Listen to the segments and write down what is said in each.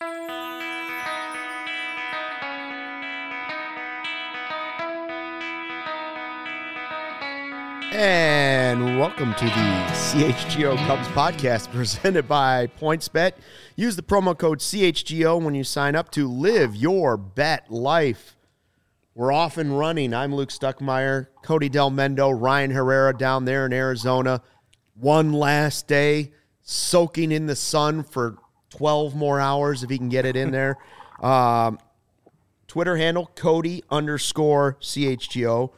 And welcome to the CHGO Cubs podcast presented by PointsBet. Use the promo code CHGO when you sign up to live your bet life. We're off and running. I'm Luke Stuckmeyer, Cody Del Mendo, Ryan Herrera down there in Arizona. One last day, soaking in the sun for 12 more hours if he can get it in there. Twitter handle, Cody_CHGO.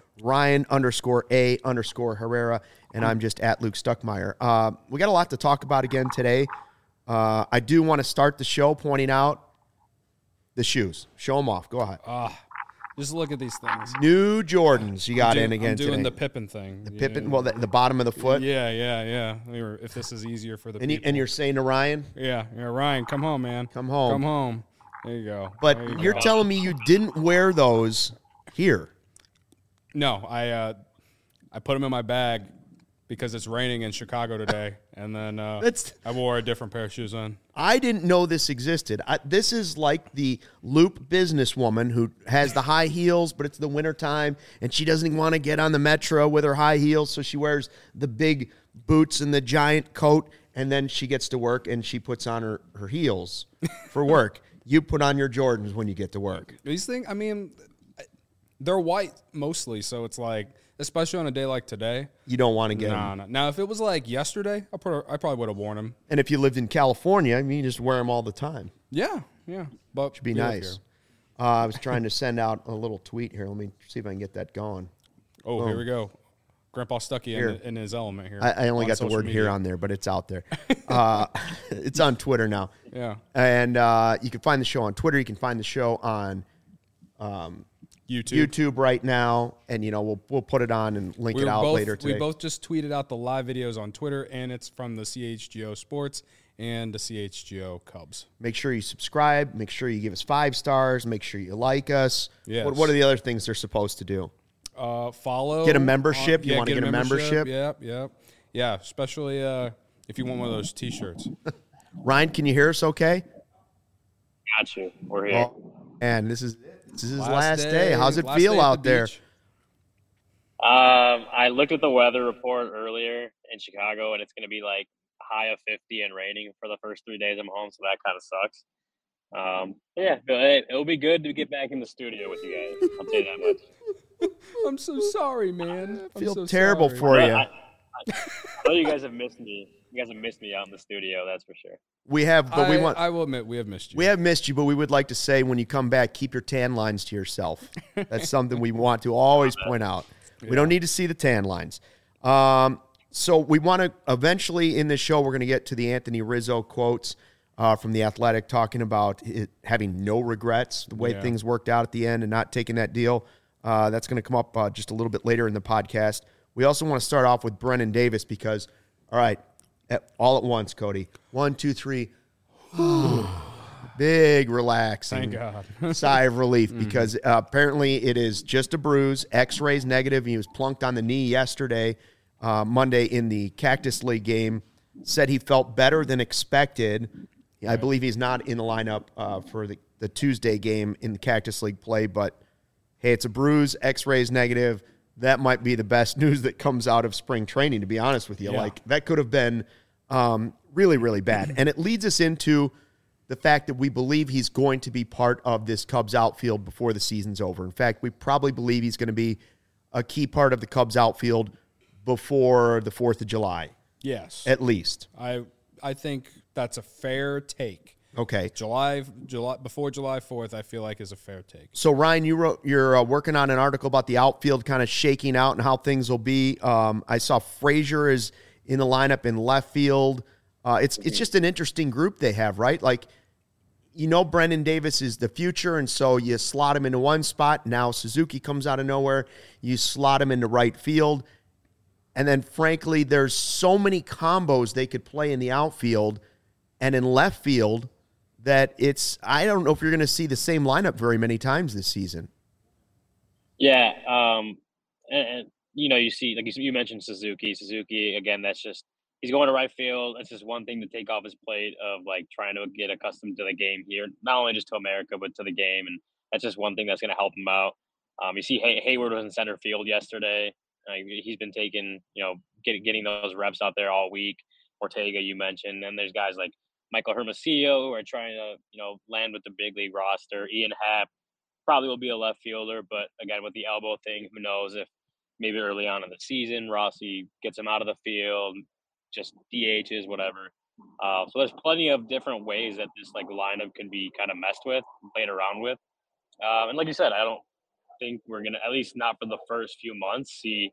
Ryan_A_Herrera, and I'm just at Luke Stuckmeyer. We got a lot to talk about again today. I do want to start the show pointing out the shoes. Show them off. Go ahead. Just look at these things. New Jordans you got in again I'm doing today. the Pippin thing. The Pippin, well, the bottom of the foot. Yeah. If this is easier for the people. And you're saying to Ryan? Yeah, Ryan, come home, man. Come home. There you go. But you're telling me you didn't wear those here. No, I put them in my bag because it's raining in Chicago today, and then I wore a different pair of shoes on. I didn't know this existed. This is like the Loop businesswoman who has the high heels, but it's the wintertime, and she doesn't want to get on the metro with her high heels, so she wears the big boots and the giant coat, and then she gets to work, and she puts on her heels for work. You put on your Jordans when you get to work. These things, I mean, they're white mostly, so it's like, especially on a day like today, you don't want to get them. No. Now, if it was like yesterday, I probably would have worn them. And if you lived in California, I mean, you just wear them all the time. Yeah. But should be nice. I was trying to send out a little tweet here. Let me see if I can get that going. Oh, Boom. Here we go. Grandpa Stucky in his element here. I only got the word media. Here on there, but it's out there. It's on Twitter now. Yeah. And you can find the show on Twitter. You can find the show on YouTube right now, and we'll put it on and link it out later today. We both just tweeted out the live videos on Twitter, and it's from the CHGO Sports and the CHGO Cubs. Make sure you subscribe. Make sure you give us 5 stars. Make sure you like us. Yes. What are the other things they're supposed to do? Follow. Get a membership. You want to get a membership? Yep. Yeah, especially if you want one of those T-shirts. Ryan, can you hear us okay? Got you. We're here. And this is his last day. How's it feel out there? I looked at the weather report earlier in Chicago, and it's going to be like high of 50 and raining for the first 3 days I'm home, so that kind of sucks. It'll be good to get back in the studio with you guys. I'll tell you that much. I'm so sorry, man. I feel terrible for you. I know you guys have missed me. You guys have missed me out in the studio, that's for sure. We have, but I will admit, we have missed you. We have missed you, but we would like to say when you come back, keep your tan lines to yourself. That's something we want to always point out. Yeah. We don't need to see the tan lines. So we want to eventually in this show, we're going to get to the Anthony Rizzo quotes from The Athletic talking about having no regrets, the way things worked out at the end and not taking that deal. That's going to come up just a little bit later in the podcast. We also want to start off with Brennen Davis because, all right, all at once, Cody. 1, 2, 3. Big relaxing. Thank God. Sigh of relief because apparently it is just a bruise. X-rays negative. He was plunked on the knee yesterday, Monday in the Cactus League game. Said he felt better than expected. I believe he's not in the lineup for the Tuesday game in the Cactus League play, but hey, it's a bruise. X-rays negative. That might be the best news that comes out of spring training, to be honest with you. Yeah. Like, that could have been really, really bad. And it leads us into the fact that we believe he's going to be part of this Cubs outfield before the season's over. In fact, we probably believe he's going to be a key part of the Cubs outfield before the 4th of July. Yes. At least. I think that's a fair take. Okay. July before July 4th, I feel like is a fair take. So Ryan, you're working on an article about the outfield kind of shaking out and how things will be. I saw Frazier is in the lineup in left field. It's just an interesting group they have, right? Like, Brennen Davis is the future, and so you slot him into one spot. Now Suzuki comes out of nowhere. You slot him into right field. And then, frankly, there's so many combos they could play in the outfield and in left field that I don't know if you're going to see the same lineup very many times this season. Yeah. And you see, like you mentioned Suzuki, again, that's just, he's going to right field. It's just one thing to take off his plate of like trying to get accustomed to the game here, not only just to America but to the game, and that's just one thing that's going to help him out. You see, Hayward was in center field yesterday. He's been taking, getting those reps out there all week. Ortega, you mentioned, and there's guys like Michael Hermosillo who are trying to, land with the big league roster. Ian Happ probably will be a left fielder, but again, with the elbow thing, who knows if maybe early on in the season Rossi gets him out of the field, just DHs, whatever. So there's plenty of different ways that this like lineup can be kind of messed with, played around with. And like you said, I don't think we're gonna, at least not for the first few months, see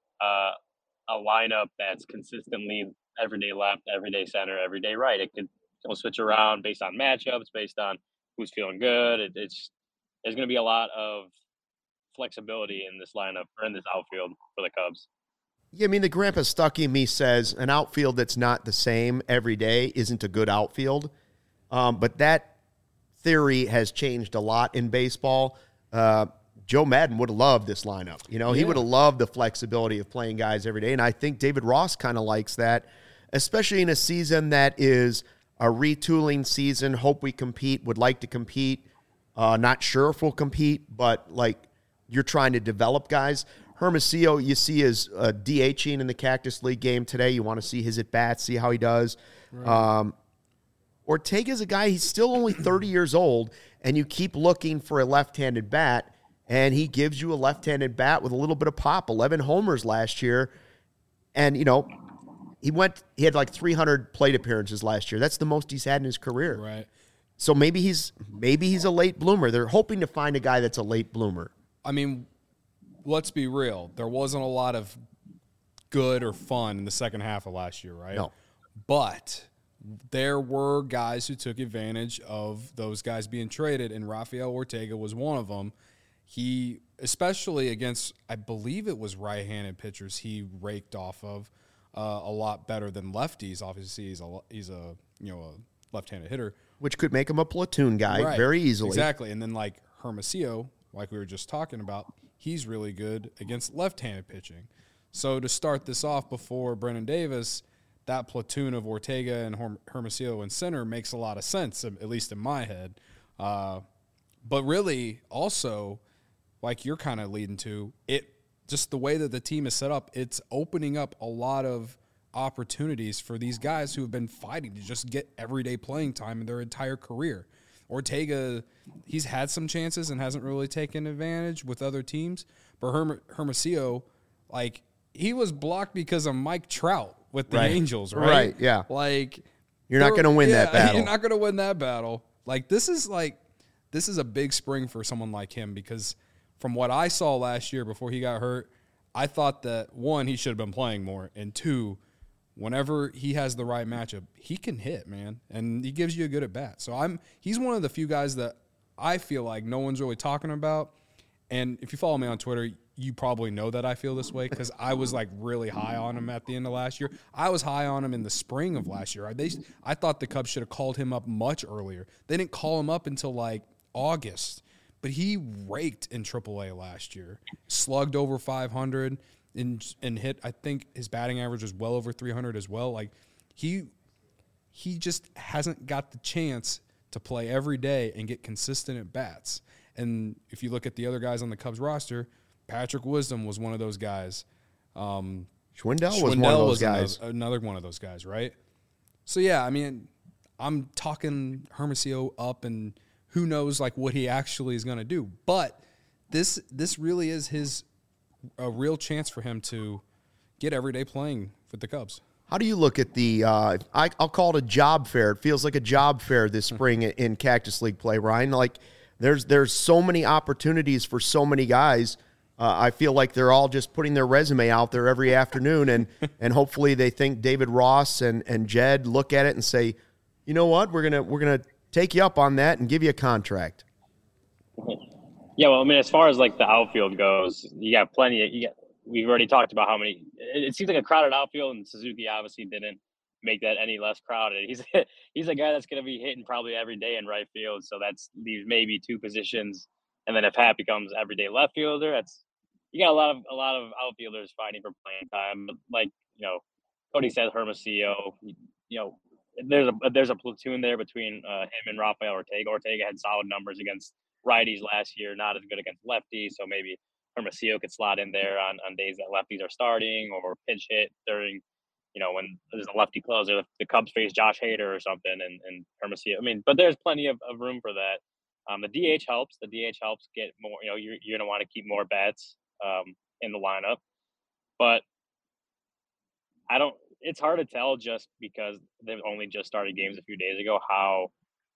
a lineup that's consistently everyday left, everyday center, everyday right. It'll switch around based on matchups, based on who's feeling good. There's going to be a lot of flexibility in this lineup or in this outfield for the Cubs. Yeah, I mean, the Grandpa Stucky in me says an outfield that's not the same every day isn't a good outfield. But that theory has changed a lot in baseball. Joe Maddon would have loved this lineup. He would have loved the flexibility of playing guys every day. And I think David Ross kind of likes that, especially in a season that is a retooling season. Hope we compete, would like to compete. Not sure if we'll compete, but like you're trying to develop guys. Hermosillo, you see, is DHing in the Cactus League game today. You want to see his at-bats, see how he does. Right. Ortega's a guy, he's still only 30 years old, and you keep looking for a left-handed bat, and he gives you a left-handed bat with a little bit of pop. 11 homers last year, and, he had like 300 plate appearances last year. That's the most he's had in his career. Right. So maybe he's a late bloomer. They're hoping to find a guy that's a late bloomer. I mean, let's be real. There wasn't a lot of good or fun in the second half of last year, right? No. But there were guys who took advantage of those guys being traded, and Rafael Ortega was one of them. He, especially against, I believe it was right-handed pitchers, he raked off of a lot better than lefties. Obviously, he's a left-handed hitter, which could make him a platoon guy very easily. Exactly, and then like Hermosillo, like we were just talking about, he's really good against left-handed pitching. So to start this off before Brennan Davis, that platoon of Ortega and Hermosillo in center makes a lot of sense, at least in my head. But really, also, like you're kind of leading to, it just the way that the team is set up, it's opening up a lot of opportunities for these guys who have been fighting to just get everyday playing time in their entire career. Ortega, he's had some chances and hasn't really taken advantage with other teams. But Hermosillo, like, he was blocked because of Mike Trout with the Angels, right? Right, yeah. Like, you're not going to win that battle. You're not going to win that battle. This is a big spring for someone like him, because from what I saw last year before he got hurt, I thought that, one, he should have been playing more, and two, whenever he has the right matchup, he can hit, man, and he gives you a good at bat. So he's one of the few guys that I feel like no one's really talking about. And if you follow me on Twitter, you probably know that I feel this way, because I was like really high on him at the end of last year. I was high on him in the spring of last year. I thought the Cubs should have called him up much earlier. They didn't call him up until like August, but he raked in AAA last year, slugged over 500. And hit, I think his batting average was well over 300 as well. Like, he just hasn't got the chance to play every day and get consistent at bats. And if you look at the other guys on the Cubs roster, Patrick Wisdom was one of those guys. Schwindel was one of those guys. Another one of those guys, right? So, yeah, I mean, I'm talking Hermosillo up, and who knows, like, what he actually is going to do. But this really is a real chance for him to get everyday playing for the Cubs. How do you look at the I'll call it a job fair. It feels like a job fair this spring in Cactus League play, Ryan. Like, there's so many opportunities for so many guys. I feel like they're all just putting their resume out there every afternoon, and hopefully they think David Ross and Jed look at it and say, you know what, we're gonna take you up on that and give you a contract. Yeah, well, I mean, as far as like the outfield goes, you got plenty. We've already talked about how many. It seems like a crowded outfield, and Suzuki obviously didn't make that any less crowded. He's a guy that's going to be hitting probably every day in right field, so that's leaves maybe two positions. And then if Happ becomes everyday left fielder, you got a lot of outfielders fighting for playing time. But like Cody says Hermosillo. You know, there's a platoon there between him and Rafael Ortega. Ortega had solid numbers against righties last year, not as good against lefties. So maybe Hermosillo could slot in there on days that lefties are starting or pinch hit during, when there's a lefty closer. The Cubs face Josh Hader or something, and Hermosillo. I mean, but there's plenty of room for that. The DH helps. The DH helps get more. You're going to want to keep more bats in the lineup, but I don't. It's hard to tell just because they've only just started games a few days ago how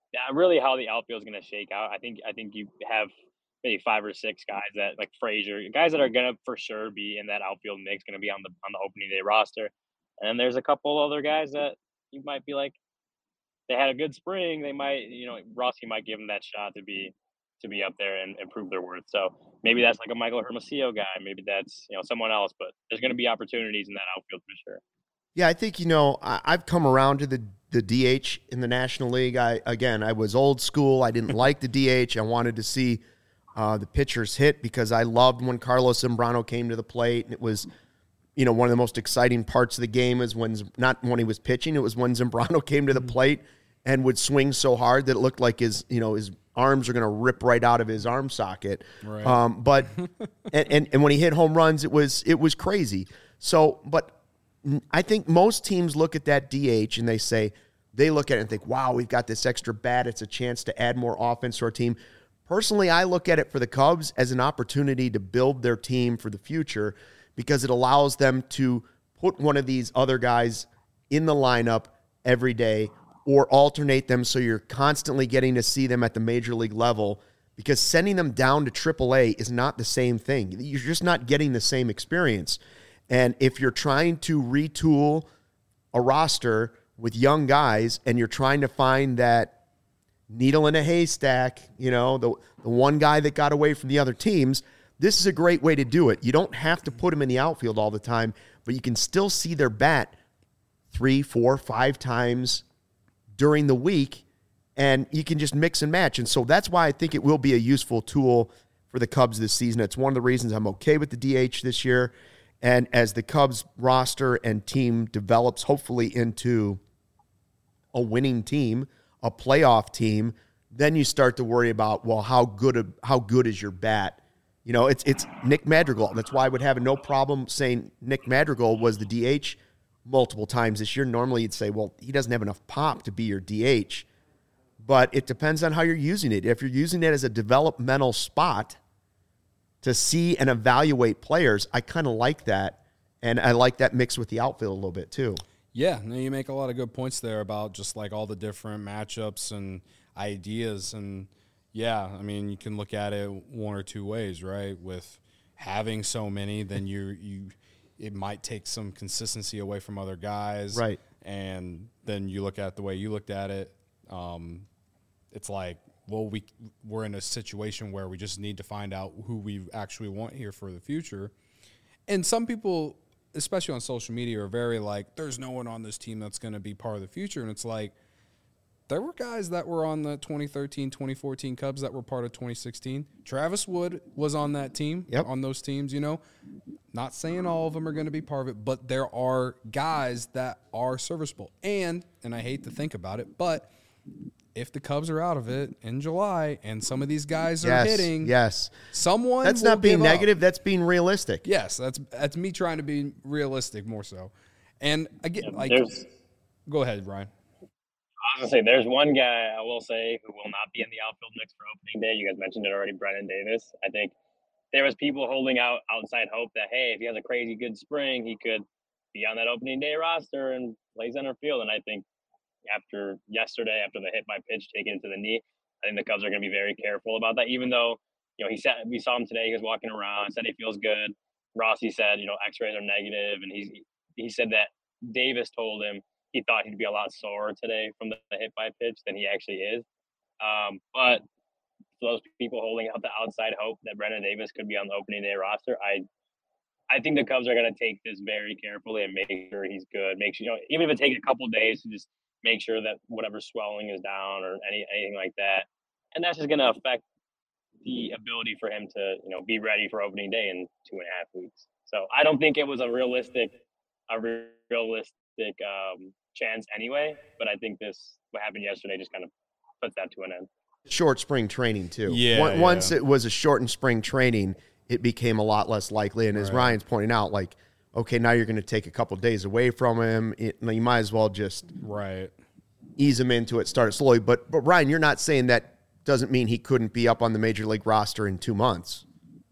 the outfield is going to shake out. I think you have maybe 5 or 6 guys that like Frazier, guys that are going to for sure be in that outfield mix, going to be on the opening day roster, and then there's a couple other guys that you might be like they had a good spring. They might Rossi might give them that shot to be up there and prove their worth. So maybe that's like a Michael Hermosillo guy. Maybe that's someone else, but there's going to be opportunities in that outfield for sure. Yeah, I think, I've come around to the DH in the National League. I was old school. I didn't like the DH. I wanted to see the pitchers hit because I loved when Carlos Zambrano came to the plate. And it was, one of the most exciting parts of the game is not when he was pitching. It was when Zambrano came to the plate and would swing so hard that it looked like his arms are going to rip right out of his arm socket. Right. But and when he hit home runs, it was crazy. So, but I think most teams look at that DH and they look at it and think, wow, we've got this extra bat. It's a chance to add more offense to our team. Personally, I look at it for the Cubs as an opportunity to build their team for the future because it allows them to put one of these other guys in the lineup every day or alternate them so you're constantly getting to see them at the major league level because sending them down to AAA is not the same thing. You're just not getting the same experience. And if you're trying to retool a roster with young guys and you're trying to find that needle in a haystack, the one guy that got away from the other teams, this is a great way to do it. You don't have to put them in the outfield all the time, but you can still see their bat 3, 4, 5 times during the week, and you can just mix and match. And so that's why I think it will be a useful tool for the Cubs this season. It's one of the reasons I'm okay with the DH this year. And as the Cubs roster and team develops, hopefully into a winning team, a playoff team, then you start to worry about, well, how good is your bat? It's Nick Madrigal. That's why I would have no problem saying Nick Madrigal was the DH multiple times this year. Normally you'd say, well, he doesn't have enough pop to be your DH. But it depends on how you're using it. If you're using it as a developmental spot to see and evaluate players, I kind of like that. And I like that mix with the outfield a little bit too. Yeah, no, you make a lot of good points there about just like all the different matchups and ideas. And yeah, I mean, you can look at it one or two ways, right? With having so many, then it might take some consistency away from other guys. Right. And then you look at the way you looked at it. It's like, well, we're in a situation where we just need to find out who we actually want here for the future. And some people, especially on social media, are very like, there's no one on this team that's going to be part of the future. And it's like, there were guys that were on the 2013, 2014 Cubs that were part of 2016. Travis Wood was on that team, on those teams, Not saying all of them are going to be part of it, but there are guys that are serviceable. And I hate to think about it, but if the Cubs are out of it in July and some of these guys are hitting, someone that's will not being give up. negative. That's being realistic. Yes, that's me trying to be realistic more so. And again, go ahead, Ryan. I was going to say, there's one guy I will say who will not be in the outfield mix for opening day. You guys mentioned it already, Brennan Davis. I think there was people holding out outside hope that, hey, if he has a crazy good spring, he could be on that opening day roster and play center field. And I think after yesterday, after the hit by pitch taken into the knee, I think the Cubs are going to be very careful about that. Even though, we saw him today, he was walking around, said he feels good. Rossi said, X-rays are negative, and he said that Davis told him he thought he'd be a lot sore today from the hit by pitch than he actually is. But for those people holding out the outside hope that Brennan Davis could be on the opening day roster, I think the Cubs are going to take this very carefully and make sure he's good. Make sure, even if it takes a couple of days to just make sure that whatever swelling is down or anything like that. And that's just going to affect the ability for him to, be ready for opening day in 2.5 weeks. So I don't think it was a realistic chance anyway. But I think what happened yesterday just kind of puts that to an end. Short spring training too. Yeah, Once it was a shortened spring training, it became a lot less likely. And as Ryan's pointing out, like, okay, now you're going to take a couple of days away from him. You might as well just ease him into it, start it slowly. But Ryan, you're not saying that doesn't mean he couldn't be up on the major league roster in 2 months.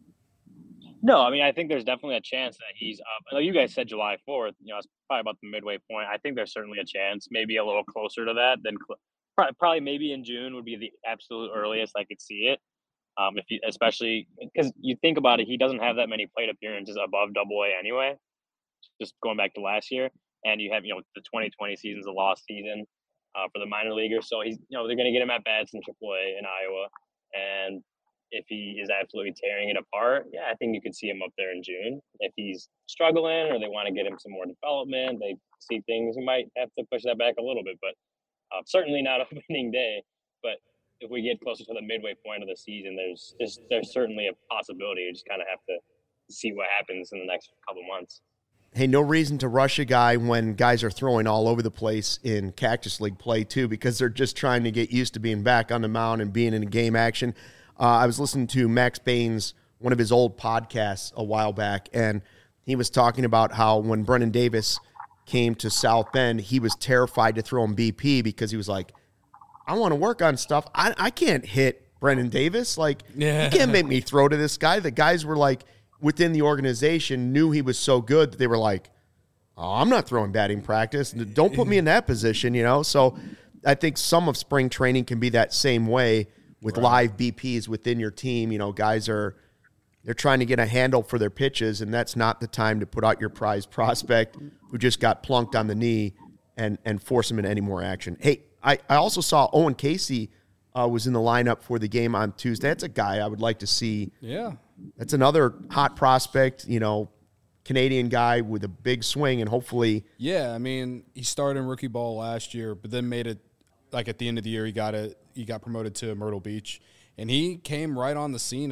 No, I mean, I think there's definitely a chance that he's up. I know you guys said July 4th. It's probably about the midway point. I think there's certainly a chance, maybe a little closer to that than probably maybe in June would be the absolute earliest I could see it. Especially because you think about it, he doesn't have that many plate appearances above AA anyway. Just going back to last year, and you have the 2020 season's a lost season for the minor leaguers, so he's they're going to get him at bats in AAA in Iowa, and if he is absolutely tearing it apart, yeah, I think you could see him up there in June. If he's struggling or they want to get him some more development, they see things, you might have to push that back a little bit, but certainly not opening day. But if we get closer to the midway point of the season, there's certainly a possibility. You just kind of have to see what happens in the next couple months. Hey, no reason to rush a guy when guys are throwing all over the place in Cactus League play, too, because they're just trying to get used to being back on the mound and being in game action. I was listening to Max Baines, one of his old podcasts a while back, and he was talking about how when Brennan Davis came to South Bend, he was terrified to throw him BP because he was like, I want to work on stuff. I can't hit Brennan Davis. Like, you can't make me throw to this guy. The guys were like, within the organization, knew he was so good that they were like, oh, I'm not throwing batting practice. Don't put me in that position, So I think some of spring training can be that same way with live BPs within your team. Guys they're trying to get a handle for their pitches, and that's not the time to put out your prize prospect who just got plunked on the knee and force him into any more action. Hey, I also saw Owen Casey was in the lineup for the game on Tuesday. That's a guy I would like to see. Yeah. That's another hot prospect, Canadian guy with a big swing, and hopefully. Yeah, I mean, he started in rookie ball last year, but then made it like at the end of the year. He got promoted to Myrtle Beach, and he came right on the scene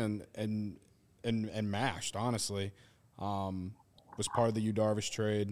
and mashed. Honestly, was part of the Yu Darvish trade.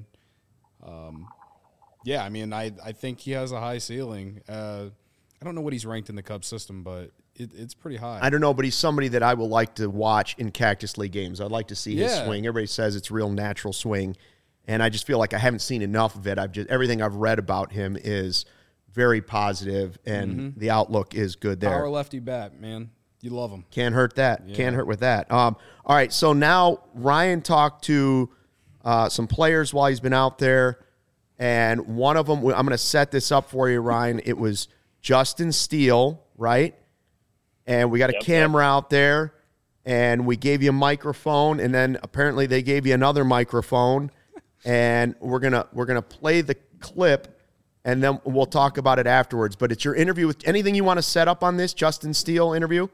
Yeah, I mean, I think he has a high ceiling. I don't know what he's ranked in the Cubs system, but it's pretty high. I don't know, but he's somebody that I will like to watch in Cactus League games. I'd like to see his swing. Everybody says it's real natural swing, and I just feel like I haven't seen enough of it. Everything I've read about him is very positive, and the outlook is good there. Power lefty bat, man. You love him. Can't hurt that. Yeah. Can't hurt with that. All right, so now Ryan talked to some players while he's been out there, and one of them, I'm going to set this up for you, Ryan. It was Justin Steele, right? And we got a camera out there, and we gave you a microphone, and then apparently they gave you another microphone, and we're gonna play the clip, and then we'll talk about it afterwards. But it's your interview. With anything you want to set up on this Justin Steele interview?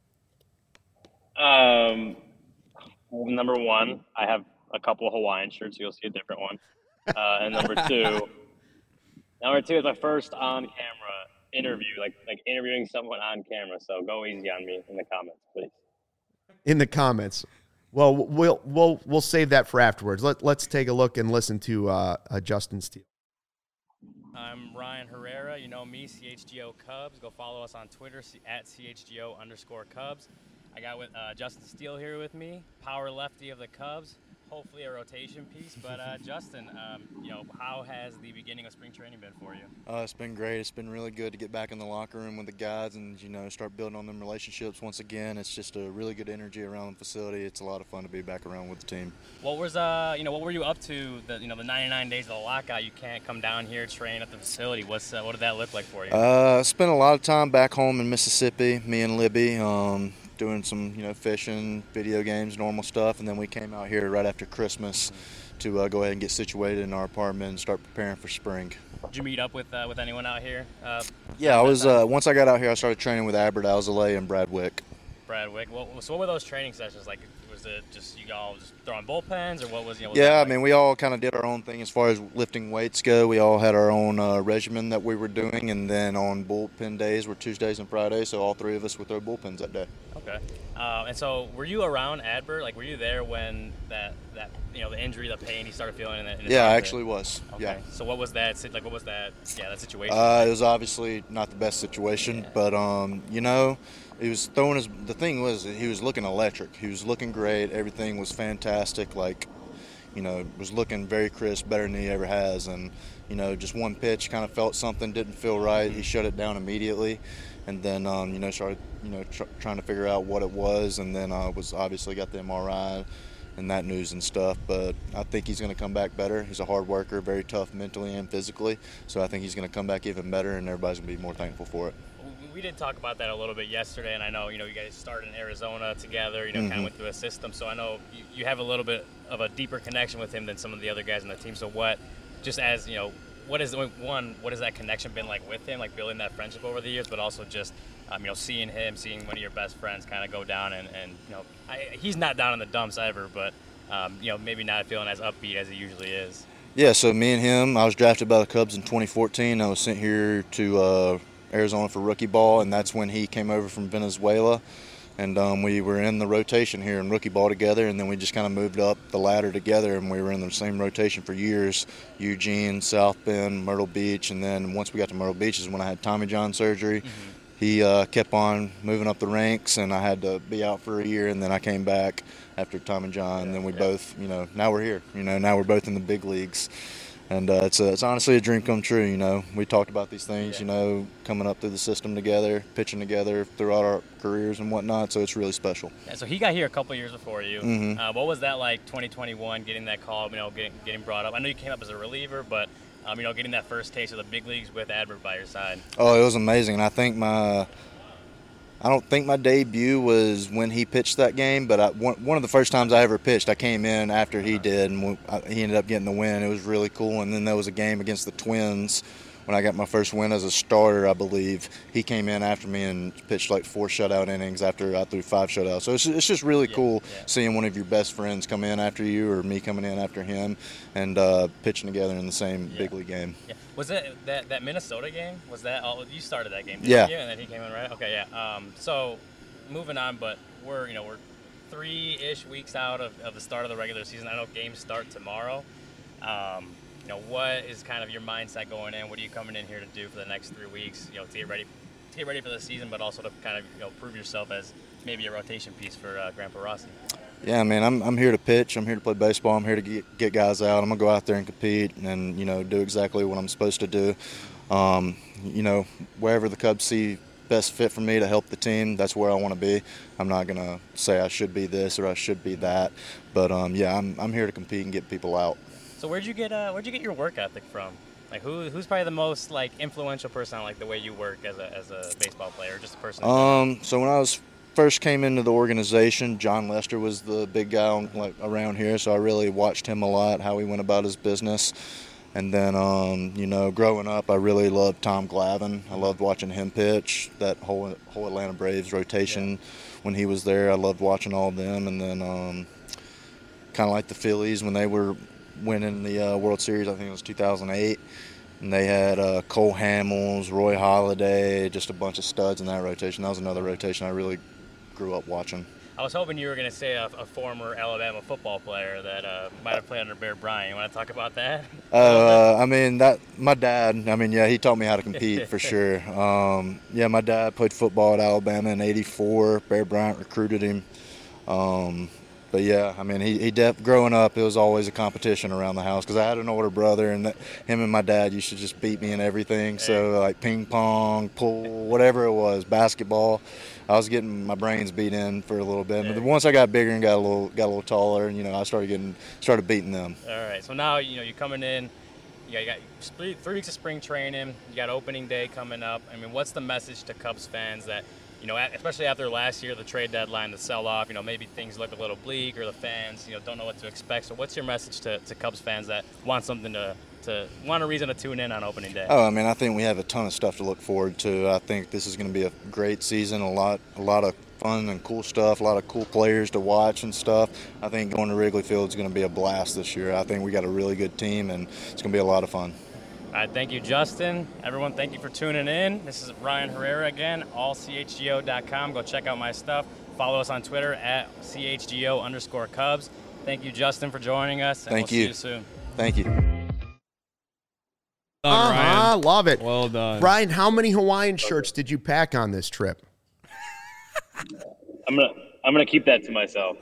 Number one, I have a couple of Hawaiian shirts, so you'll see a different one. And number two is my first on-camera interview, like interviewing someone on camera. So go easy on me in the comments, please. In the comments. Well, we'll save that for afterwards. Let's take a look and listen to Justin Steele. I'm Ryan Herrera. You know me, CHGO Cubs. Go follow us on Twitter at CHGO_Cubs. I got with Justin Steele here with me, power lefty of the Cubs. Hopefully a rotation piece, but Justin, how has the beginning of spring training been for you? It's been great. It's been really good to get back in the locker room with the guys and start building on them relationships once again. It's just a really good energy around the facility. It's a lot of fun to be back around with the team. What was what were you up to the 99 days of the lockout? You can't come down here train at the facility. What did that look like for you? I spent a lot of time back home in Mississippi. Me and Libby. Doing some, fishing, video games, normal stuff, and then we came out here right after Christmas to go ahead and get situated in our apartment and start preparing for spring. Did you meet up with anyone out here? Yeah, I was. Once I got out here, I started training with Albert Alzolay and Brad Wick. Brad Wick. Well, so what were those training sessions like? Was it just you all just throwing bullpens, or what was Yeah, I mean, we all kind of did our own thing as far as lifting weights go. We all had our own regimen that we were doing, and then on bullpen days were Tuesdays and Fridays, so all three of us would throw bullpens that day. Okay. And so were you around Adbert? Like, were you there when that the injury, the pain he started feeling in it? Yeah, I actually was. Okay. Yeah. So what was that? Like, what was that? Yeah, that situation. It was obviously not the best situation, but he was throwing the thing was he was looking electric. He was looking great. Everything was fantastic. Like, was looking very crisp, better than he ever has. And, just one pitch, kind of felt something, didn't feel right. He shut it down immediately. And then, started, trying to figure out what it was. And then was obviously got the MRI and that news and stuff. But I think he's going to come back better. He's a hard worker, very tough mentally and physically. So I think he's going to come back even better, and everybody's going to be more thankful for it. We did talk about that a little bit yesterday, and I know, you guys started in Arizona together, kind of went through a system. So I know you have a little bit of a deeper connection with him than some of the other guys on the team. So what is that connection been like with him, like building that friendship over the years, but also just, seeing one of your best friends kind of go down and he's not down in the dumps ever, but, maybe not feeling as upbeat as he usually is. Yeah, so me and him, I was drafted by the Cubs in 2014. I was sent here to Arizona for rookie ball, and that's when he came over from Venezuela. And we were in the rotation here in rookie ball together, and then we just kind of moved up the ladder together, and we were in the same rotation for years. Eugene, South Bend, Myrtle Beach, and then once we got to Myrtle Beach is when I had Tommy John surgery. Mm-hmm. He kept on moving up the ranks, and I had to be out for a year, and then I came back after Tommy John, and then we both, now we're here. Now we're both in the big leagues. And it's honestly a dream come true, We talked about these things, coming up through the system together, pitching together throughout our careers and whatnot, so it's really special. Yeah, so he got here a couple years before you. Mm-hmm. What was that like, 2021, getting that call, getting brought up? I know you came up as a reliever, but, getting that first taste of the big leagues with Adbert by your side. Oh, it was amazing. And I don't think my debut was when he pitched that game, but one of the first times I ever pitched, I came in after he did, and he ended up getting the win. It was really cool. And then there was a game against the Twins when I got my first win as a starter, I believe. He came in after me and pitched like 4 shutout innings after I threw 5 shutouts. So it's just really cool seeing one of your best friends come in after you, or me coming in after him, and pitching together in the same big league game. Yeah. Was it that Minnesota game? Was that all? You started that game, didn't you? And then he came in, right? Okay, yeah. So moving on, but we're 3-ish weeks out of the start of the regular season. I know games start tomorrow. What is kind of your mindset going in? What are you coming in here to do for the next 3 weeks? To get ready for the season, but also to kind of prove yourself as maybe a rotation piece for Grandpa Rossi. Yeah, man, I'm here to pitch. I'm here to play baseball. I'm here to get guys out. I'm gonna go out there and compete, and do exactly what I'm supposed to do. Wherever the Cubs see best fit for me to help the team, that's where I want to be. I'm not gonna say I should be this or I should be that, but I'm here to compete and get people out. So where'd you get your work ethic from? Like who's probably the most influential person on the way you work as a baseball player, or just a person? So when I first came into the organization, John Lester was the big guy around here, so I really watched him a lot, how he went about his business. And then growing up, I really loved Tom Glavine. I loved watching him pitch, that whole Atlanta Braves rotation when he was there. I loved watching all of them. And then kind of like the Phillies when they were winning the World Series, I think it was 2008. And they had Cole Hamels, Roy Halladay, just a bunch of studs in that rotation. That was another rotation I really grew up watching. I was hoping you were going to say a former Alabama football player that might have played under Bear Bryant. You want to talk about that? My dad, he taught me how to compete for sure. My dad played football at Alabama in '84. Bear Bryant recruited him. But he growing up, it was always a competition around the house because I had an older brother, and him and my dad used to just beat me in everything. So ping pong, pool, whatever it was, basketball, I was getting my brains beat in for a little bit. But once I got bigger and got a little taller, I started beating them. All right. So now you're coming in. You got 3 weeks of spring training. You got opening day coming up. What's the message to Cubs fans that? Especially after last year, the trade deadline, the sell-off, maybe things look a little bleak, or the fans, don't know what to expect. So what's your message to Cubs fans that want something want a reason to tune in on opening day? I think we have a ton of stuff to look forward to. I think this is going to be a great season, a lot of fun and cool stuff, a lot of cool players to watch and stuff. I think going to Wrigley Field is going to be a blast this year. I think we got a really good team, and it's going to be a lot of fun. All right, thank you, Justin. Everyone, thank you for tuning in. This is Ryan Herrera again, allchgo.com. Go check out my stuff. Follow us on Twitter at CHGO_Cubs. Thank you, Justin, for joining us. And Thank we'll you. See you soon. Thank you. Ryan. Love it. Well done. Ryan, how many Hawaiian shirts did you pack on this trip? I'm gonna keep that to myself.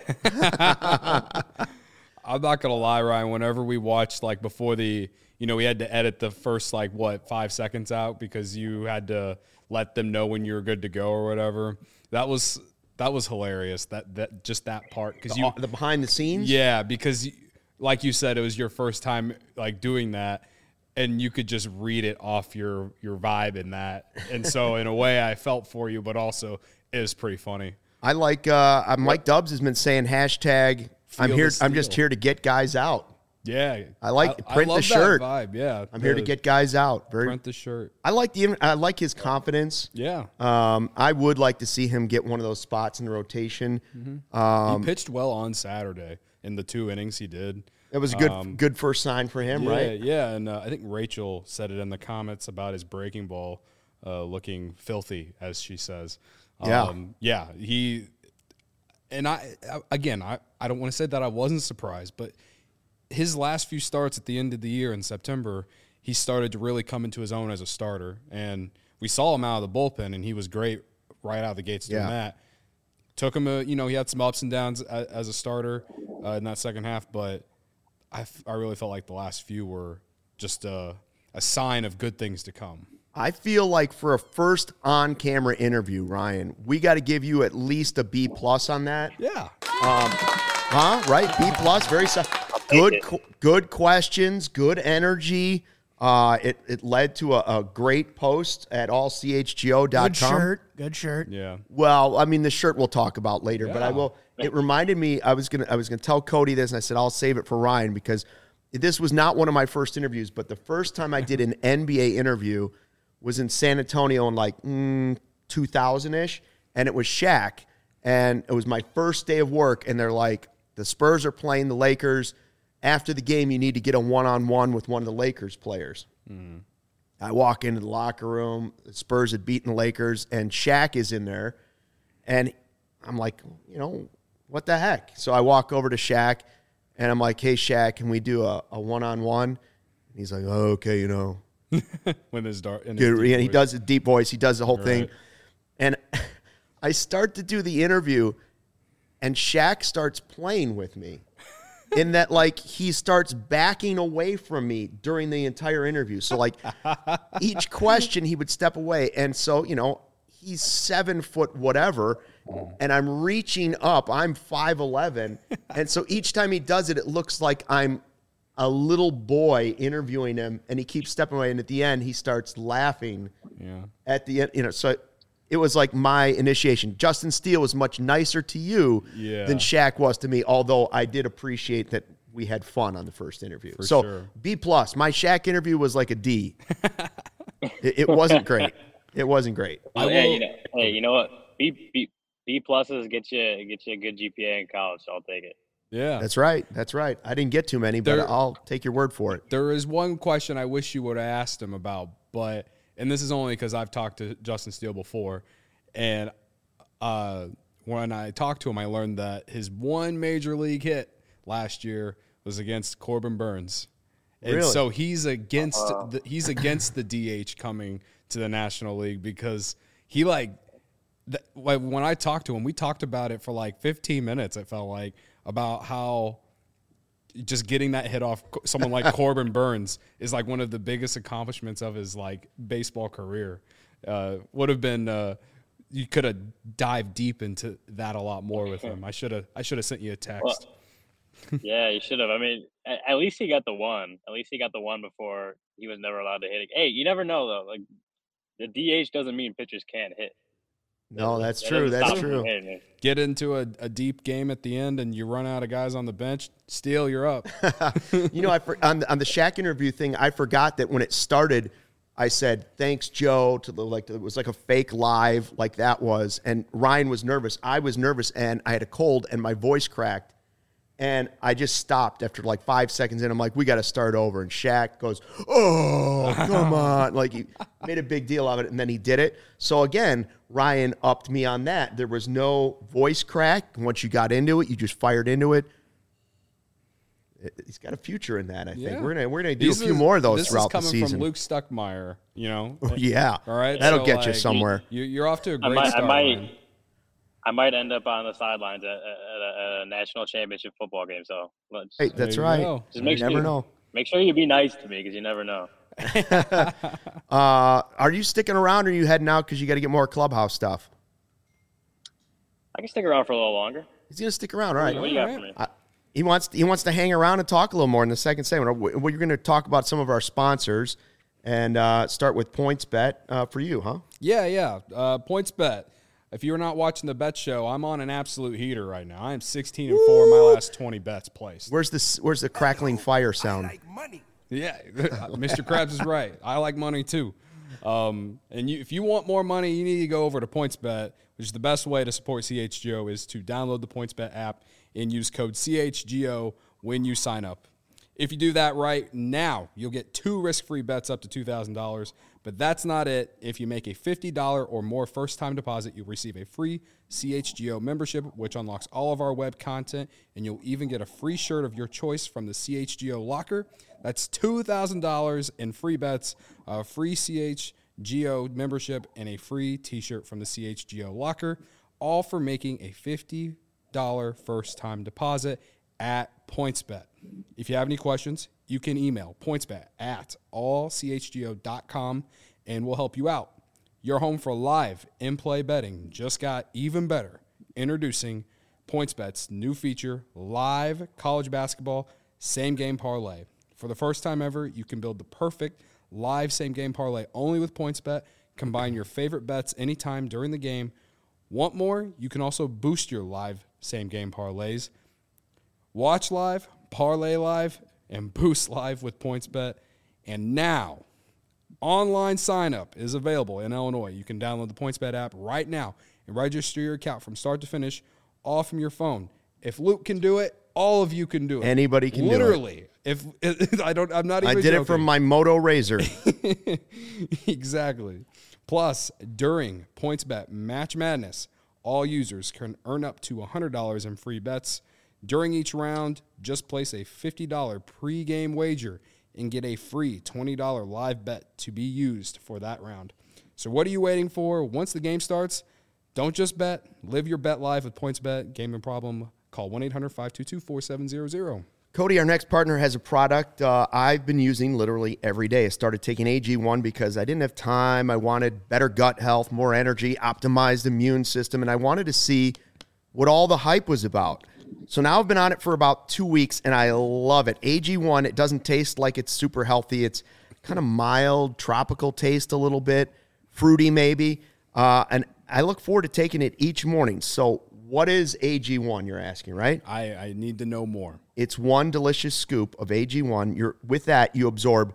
I'm not gonna lie, Ryan. Whenever we watched, like, before we had to edit the first 5 seconds out because you had to let them know when you were good to go or whatever. That was hilarious. That just that part because The behind the scenes. yeah, because like you said, it was your first time doing that. And you could just read it off your vibe in that. And so in a way I felt for you, but also it was pretty funny. I like Mike Dubs has been saying hashtag I'm just here to get guys out. Yeah. I like print love the shirt. That vibe. Yeah. I'm here to get guys out. Print the shirt. I like his confidence. Yeah. I would like to see him get one of those spots in the rotation. He pitched well on Saturday in the 2 innings he did. It was a good first sign for him, right? Yeah, and I think Rachel said it in the comments about his breaking ball looking filthy, as she says. Yeah, he and I don't want to say that I wasn't surprised, but his last few starts at the end of the year in September, he started to really come into his own as a starter, and we saw him out of the bullpen, and he was great right out of the gates doing that. Took him he had some ups and downs as a starter in that second half, but I really felt like the last few were just a sign of good things to come. I feel like for a first on-camera interview, Ryan, we got to give you at least a B+ on that. Yeah. Right? B+, very good questions, good energy. It led to a great post at allchgo.com. Good shirt. Yeah. Well, I mean, the shirt we'll talk about later, but I will. It reminded me, I was gonna tell Cody this, and I said I'll save it for Ryan because this was not one of my first interviews, but the first time I did an NBA interview was in San Antonio in 2000-ish, and it was Shaq, and it was my first day of work, and they're like, the Spurs are playing the Lakers. After the game, you need to get a one-on-one with one of the Lakers players. I walk into the locker room. The Spurs had beaten the Lakers, and Shaq is in there. And I'm like, what the heck? So I walk over to Shaq, and I'm like, hey, Shaq, can we do a one-on-one? And he's like, oh, okay, When his he does a deep voice. He does the whole thing. And I start to do the interview, and Shaq starts playing with me. In that, he starts backing away from me during the entire interview. So, each question, he would step away. And so, he's 7 foot whatever, and I'm reaching up. I'm 5'11". And so each time he does it, it looks like I'm a little boy interviewing him, and he keeps stepping away. And at the end, he starts laughing. Yeah. At the end, so it was like my initiation. Justin Steele was much nicer to you than Shaq was to me, although I did appreciate that we had fun on the first interview. For so sure. B+. My Shaq interview was like a D. It wasn't great. It wasn't great. You know what? B pluses get you a good GPA in college, so I'll take it. Yeah. That's right. I didn't get too many, but I'll take your word for it. There is one question I wish you would have asked him about, and this is only because I've talked to Justin Steele before, and when I talked to him, I learned that his one major league hit last year was against Corbin Burns. And Really? so he's against the DH coming to the National League because he when I talked to him, we talked about it for 15 minutes. It felt like about how just getting that hit off someone like Corbin Burns is one of the biggest accomplishments of his baseball career. Would have been you could have dived deep into that a lot more with him. I should have sent you a text. Yeah, you should have. I mean, at least he got the one. At least he got the one before he was never allowed to hit it. Hey, you never know though. The DH doesn't mean pitchers can't hit. No, that's true. That's true. Get into a deep game at the end, and you run out of guys on the bench. Steele, you're up. On the Shaq interview thing, I forgot that when it started, I said, thanks, Joe, it was like a fake live like that was. And Ryan was nervous. I was nervous, and I had a cold, and my voice cracked. And I just stopped after like 5 seconds, and I'm like, we got to start over. And Shaq goes, oh, come on. Like, he made a big deal of it, and then he did it. So, again, Ryan upped me on that. There was no voice crack. Once you got into it, you just fired into it. He's got a future in that, I think. Yeah. We're gonna do a few more of those throughout the season. This is coming from Luke Stuckmeyer, Yeah. All right. That'll get you somewhere. You're off to a great start. I might end up on the sidelines at a national championship football game. So hey, that's right. Just you never know. Make sure you be nice to me, because you never know. Are you sticking around, or are you heading out because you got to get more clubhouse stuff? I can stick around for a little longer. He's gonna stick around. All right. What do you got for me? He wants to hang around and talk a little more in the second segment. We're going to talk about some of our sponsors and start with PointsBet for you, huh? Yeah. PointsBet. If you're not watching the bet show, I'm on an absolute heater right now. I am 16-4 in my last 20 bets placed. Where's the crackling fire sound? I like money. Yeah, Mr. Krabs is right. I like money too. If you want more money, you need to go over to PointsBet, which is the best way to support CHGO is to download the PointsBet app and use code CHGO when you sign up. If you do that right now, you'll get 2 risk-free bets up to $2,000. But that's not it. If you make a $50 or more first-time deposit, you'll receive a free CHGO membership, which unlocks all of our web content, and you'll even get a free shirt of your choice from the CHGO locker. That's $2,000 in free bets, a free CHGO membership, and a free T-shirt from the CHGO locker, all for making a $50 first-time deposit at PointsBet. If you have any questions, you can email pointsbet@allchgo.com, and we'll help you out. Your home for live in-play betting just got even better. Introducing PointsBet's new feature, Live College Basketball Same-Game Parlay. For the first time ever, you can build the perfect live same-game parlay only with PointsBet. Combine your favorite bets anytime during the game. Want more? You can also boost your live same-game parlays. Watch live, parlay live, and boost live with PointsBet. And now, online sign-up is available in Illinois. You can download the PointsBet app right now and register your account from start to finish, all from your phone. If Luke can do it, all of you can do it. Anybody can do it. Literally. I'm not even I did joking. it from my Moto Razor. Exactly. Plus, during PointsBet Match Madness, all users can earn up to $100 in free bets. During each round, just place a $50 pregame wager and get a free $20 live bet to be used for that round. So what are you waiting for? Once the game starts, don't just bet. Live your bet live with PointsBet. Gaming problem? Call 1-800-522-4700. Cody, our next partner, has a product I've been using literally every day. I started taking AG1 because I didn't have time. I wanted better gut health, more energy, optimized immune system, and I wanted to see what all the hype was about. So now I've been on it for about 2 weeks, and I love it. AG1, it doesn't taste like it's super healthy. It's kind of mild, tropical taste a little bit, fruity maybe. And I look forward to taking it each morning. So what is AG1, you're asking, right? I need to know more. It's one delicious scoop of AG1. With that, you absorb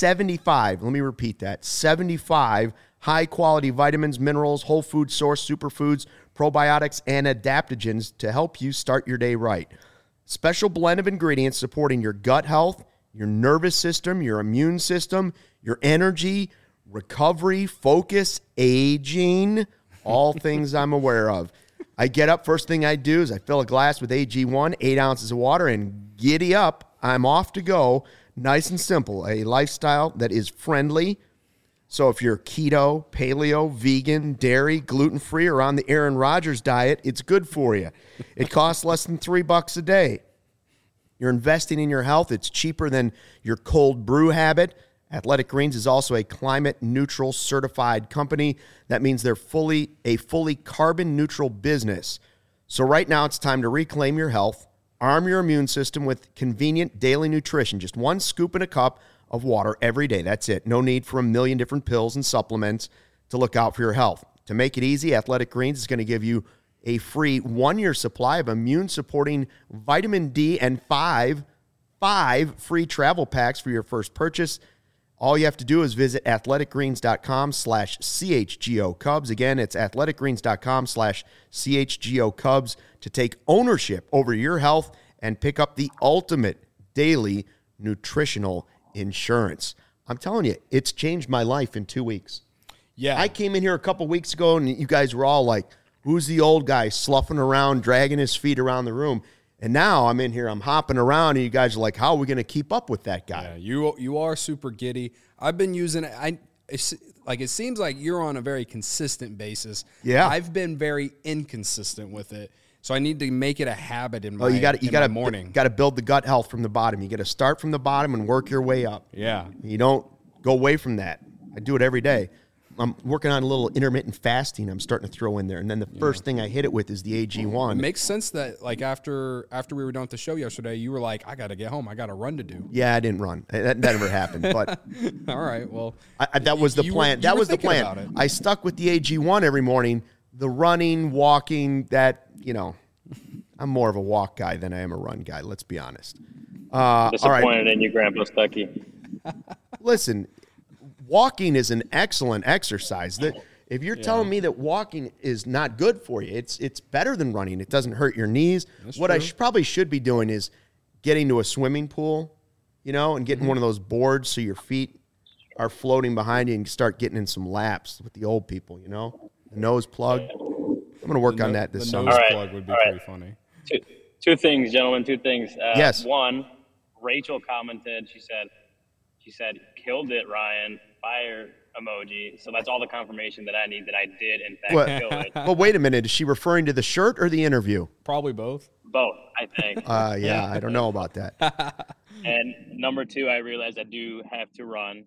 75, let me repeat that, 75 high-quality vitamins, minerals, whole food source, superfoods, probiotics, and adaptogens to help you start your day right. Special blend of ingredients supporting your gut health, your nervous system, your immune system, your energy, recovery, focus, aging, all things I'm aware of. I get up, first thing I do is I fill a glass with AG1, 8 ounces of water, and giddy up, I'm off to go. Nice and simple, a lifestyle that is friendly. So if you're keto, paleo, vegan, dairy, gluten-free, or on the Aaron Rodgers diet, it's good for you. It costs less than $3 a day. You're investing in your health. It's cheaper than your cold brew habit. Athletic Greens is also a climate-neutral certified company. That means they're a fully carbon-neutral business. So right now it's time to reclaim your health, arm your immune system with convenient daily nutrition. Just 1 scoop in a cup of water every day. That's it. No need for a million different pills and supplements to look out for your health. To make it easy, Athletic Greens is going to give you a free 1-year supply of immune-supporting vitamin D and five free travel packs for your first purchase. All you have to do is visit athleticgreens.com/CHGO Cubs. Again, it's athleticgreens.com/CHGO Cubs to take ownership over your health and pick up the ultimate daily nutritional insurance. I'm telling you, it's changed my life in 2 weeks. Yeah. I came in here a couple weeks ago, and you guys were all like, who's the old guy sloughing around, dragging his feet around the room? And now I'm in here, I'm hopping around, and you guys are like, how are we going to keep up with that guy? Yeah, you are super giddy. I've been using it. It seems like you're on a very consistent basis. Yeah. I've been very inconsistent with it. So I need to make it a habit in my, You got my morning. You got to build the gut health from the bottom. You got to start from the bottom and work your way up. Yeah. You don't go away from that. I do it every day. I'm working on a little intermittent fasting I'm starting to throw in there. And then the first thing I hit it with is the AG1. It makes sense that, like, after we were done with the show yesterday, you were like, I got to get home. I got a run to do. Yeah, I didn't run. That never happened. But all right, well. that was the plan. That was the plan. I stuck with the AG1 every morning. The running, walking, I'm more of a walk guy than I am a run guy, let's be honest. Disappointed in you, Grandpa Stuckey. Listen, walking is an excellent exercise. If you're telling me that walking is not good for you, it's better than running. It doesn't hurt your knees. That's what true. I probably should be doing is getting to a swimming pool, and getting one of those boards so your feet are floating behind you and start getting in some laps with the old people, the nose plug. I'm going to work on that this the summer. nose All right, plug would be all right. pretty funny. Two things, gentlemen. Two things. Yes. One, Rachel commented. She said, "Killed it, Ryan." Fire emoji. So that's all the confirmation that I need that I did in fact kill it. But wait a minute. Is she referring to the shirt or the interview? Probably both. Both, I think. Yeah, I don't know about that. And number two, I realized I do have to run.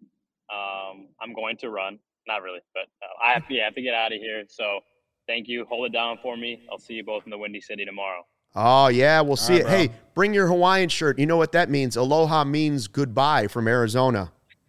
I'm going to run. Not really, but I have to get out of here. So thank you. Hold it down for me. I'll see you both in the Windy City tomorrow. Oh, yeah, we'll see it. right, Hey, bro. bring your Hawaiian shirt. You know what that means? Aloha means goodbye from Arizona.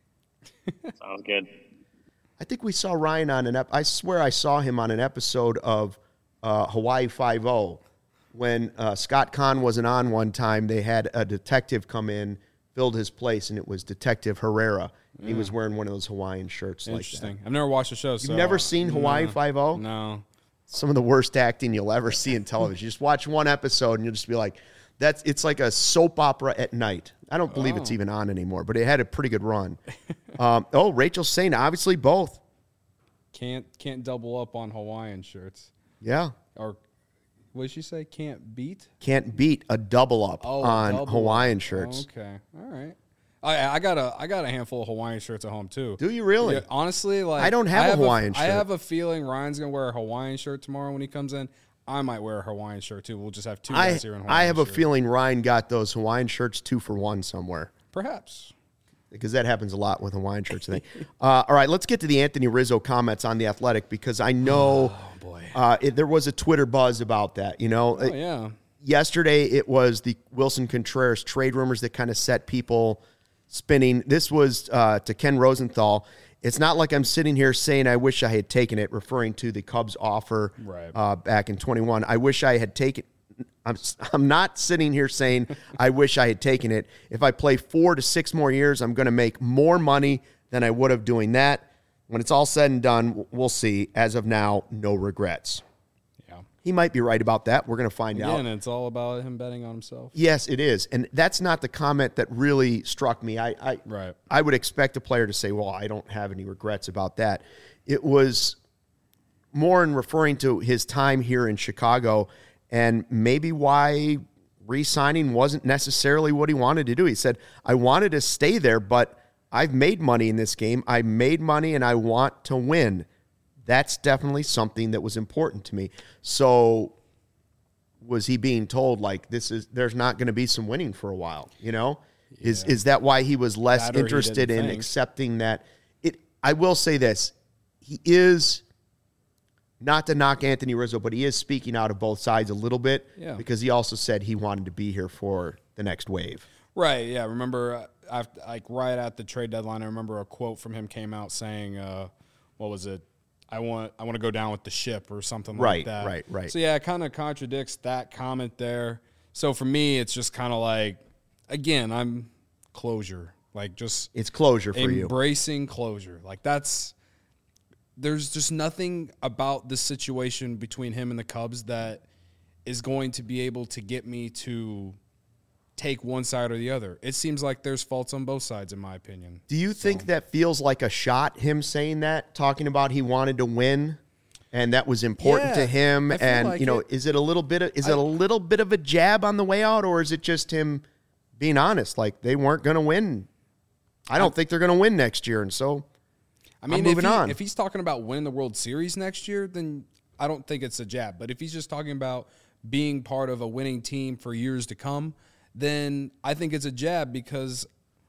Sounds good. I think we saw Ryan on I swear I saw him on an episode of Hawaii Five-0 when Scott Kahn wasn't on one time. They had a detective come in, filled his place, and it was Detective Herrera. He was wearing one of those Hawaiian shirts like that. Interesting. I've never watched the show. You've never seen Hawaii Five-0? No. Some of the worst acting you'll ever see in television. You just watch one episode and you'll just be like, it's like a soap opera at night. I don't believe it's even on anymore, but it had a pretty good run. Rachel's saying obviously both. Can't double up on Hawaiian shirts. Yeah. Or what did she say? Can't beat? Can't beat a double up on double Hawaiian up. shirts. Okay. All right. I got a handful of Hawaiian shirts at home too. Do you really? Yeah, honestly, like I don't have a Hawaiian I shirt. have a feeling Ryan's gonna wear a Hawaiian shirt tomorrow when he comes in. I might wear a Hawaiian shirt too. We'll just have two guys here in Hawaiian I have a shirts. feeling Ryan got those Hawaiian shirts 2 for $1 somewhere. Perhaps. Because that happens a lot with Hawaiian shirts. I think. All right, let's get to the Anthony Rizzo comments on The Athletic because I know there was a Twitter buzz about that. Yeah. Yesterday it was the Wilson Contreras trade rumors that kind of set people spinning. This was to Ken Rosenthal. It's not like I'm sitting here saying I wish I had taken it, referring to the Cubs offer back in 21. I wish I had taken. I'm not sitting here saying I wish I had taken it. If I play 4 to 6 more years, I'm going to make more money than I would have doing that. When it's all said and done, we'll see. As of now, no regrets. Yeah. He might be right about that. We're going to find out. And it's all about him betting on himself. Yes, it is. And that's not the comment that really struck me. I would expect a player to say, well, I don't have any regrets about that. It was more in referring to his time here in Chicago and maybe why re-signing wasn't necessarily what he wanted to do. He said, I wanted to stay there, but I've made money in this game. I made money and I want to win. That's definitely something that was important to me. So was he being told like there's not going to be some winning for a while, Is that why he was less interested in accepting that? I will say this. He is, not to knock Anthony Rizzo, but he is speaking out of both sides a little bit because he also said he wanted to be here for the next wave. Right, yeah. Remember, right at the trade deadline, I remember a quote from him came out saying, what was it? I want to go down with the ship or something like that. Right. So, yeah, it kind of contradicts that comment there. So, for me, it's just kind of like, again, I'm closure. Like, just It's closure for you. embracing closure. Like, there's just nothing about this situation between him and the Cubs that is going to be able to get me to take one side or the other. It seems like there's faults on both sides, in my opinion. Do you think that feels like a shot, him saying that, talking about he wanted to win and that was important to him? I feel And, like you know, it. is it a little bit of a jab on the way out, or is it just him being honest? Like, they weren't going to win. I don't think they're going to win next year. And so I mean, moving on. If he's talking about winning the World Series next year, then I don't think it's a jab. But if he's just talking about being part of a winning team for years to come, then I think it's a jab, because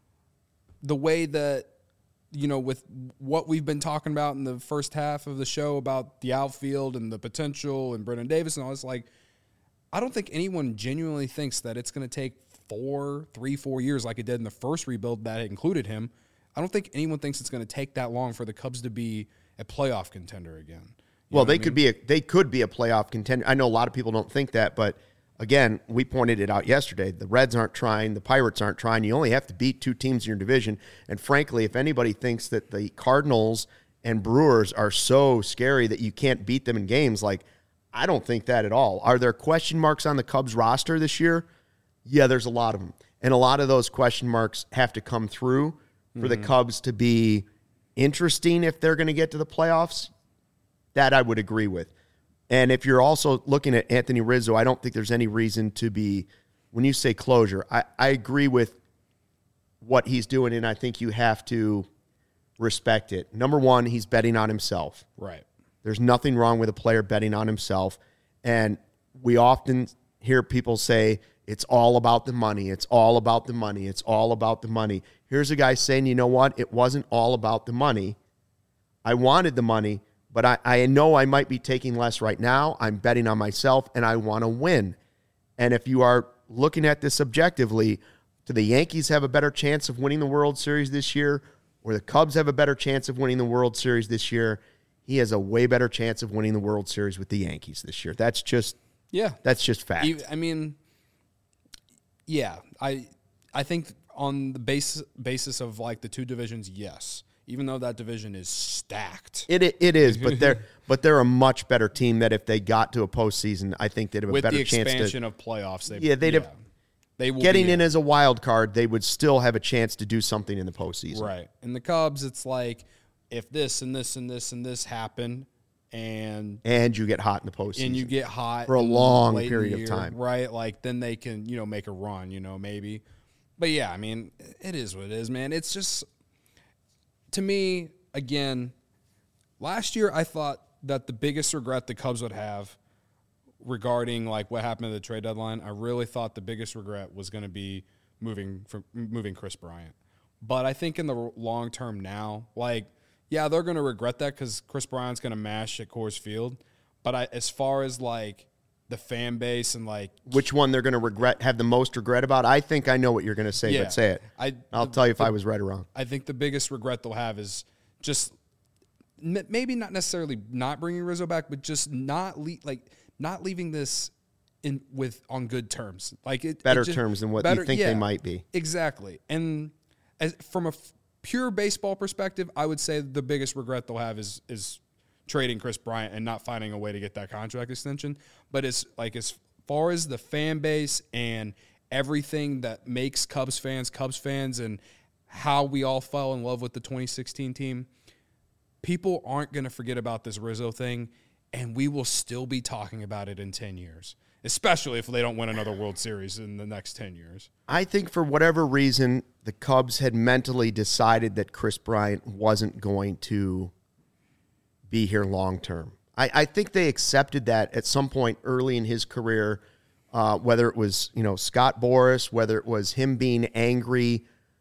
the way that, you know, with what we've been talking about in the first half of the show about the outfield and the potential and Brendan Davis and all this, like, I don't think anyone genuinely thinks that it's going to take 4 years like it did in the first rebuild that included him. I don't think anyone thinks it's going to take that long for the Cubs to be a playoff contender again. Well, they could be a playoff contender. I know a lot of people don't think that, but again, we pointed it out yesterday. The Reds aren't trying, the Pirates aren't trying. You only have to beat 2 teams in your division. And frankly, if anybody thinks that the Cardinals and Brewers are so scary that you can't beat them in games, like, I don't think that at all. Are there question marks on the Cubs roster this year? Yeah, there's a lot of them. And a lot of those question marks have to come through for the Cubs to be interesting if they're going to get to the playoffs. That I would agree with. And if you're also looking at Anthony Rizzo, I don't think there's any reason to be, when you say closure, I agree with what he's doing, and I think you have to respect it. Number one, he's betting on himself. Right. There's nothing wrong with a player betting on himself. And we often hear people say, it's all about the money. It's all about the money. It's all about the money. Here's a guy saying, you know what? It wasn't all about the money. I wanted the money, but I know I might be taking less right now. I'm betting on myself, and I want to win. And if you are looking at this objectively, do the Yankees have a better chance of winning the World Series this year, or the Cubs have a better chance of winning the World Series this year? He has a way better chance of winning the World Series with the Yankees this year. That's just fact. I mean, yeah, I think on the basis of like the 2 divisions, yes. Even though that division is stacked, it is, but they're a much better team. That if they got to a postseason, I think they'd have a better chance to. With the expansion of playoffs, they will getting in as a wild card. They would still have a chance to do something in the postseason, right? And the Cubs, it's like if this and this and this and this happen, and you get hot in the postseason, and you get hot for a long late period in the of year, time, right? Like then they can make a run, maybe. But yeah, I mean, it is what it is, man. It's just. To me, again, last year I thought that the biggest regret the Cubs would have regarding like what happened at the trade deadline, I really thought the biggest regret was going to be moving Kris Bryant. But I think in the long term now, like, yeah, they're going to regret that because Kris Bryant's going to mash at Coors Field. But as far as like the fan base and like which one they're going to have the most regret about, I think I know what you're going to say, but say it. I'll tell you if I was right or wrong. I think the biggest regret they'll have is just maybe not necessarily not bringing Rizzo back, but just not leaving this on good terms, like better terms than what you think they might be. Exactly, and from a pure baseball perspective, I would say the biggest regret they'll have is trading Kris Bryant and not finding a way to get that contract extension. But as far as the fan base and everything that makes Cubs fans and how we all fell in love with the 2016 team, people aren't going to forget about this Rizzo thing, and we will still be talking about it in 10 years, especially if they don't win another World Series in the next 10 years. I think for whatever reason, the Cubs had mentally decided that Kris Bryant wasn't going to be here long term. I think they accepted that at some point early in his career, whether it was Scott Boras, whether it was him being angry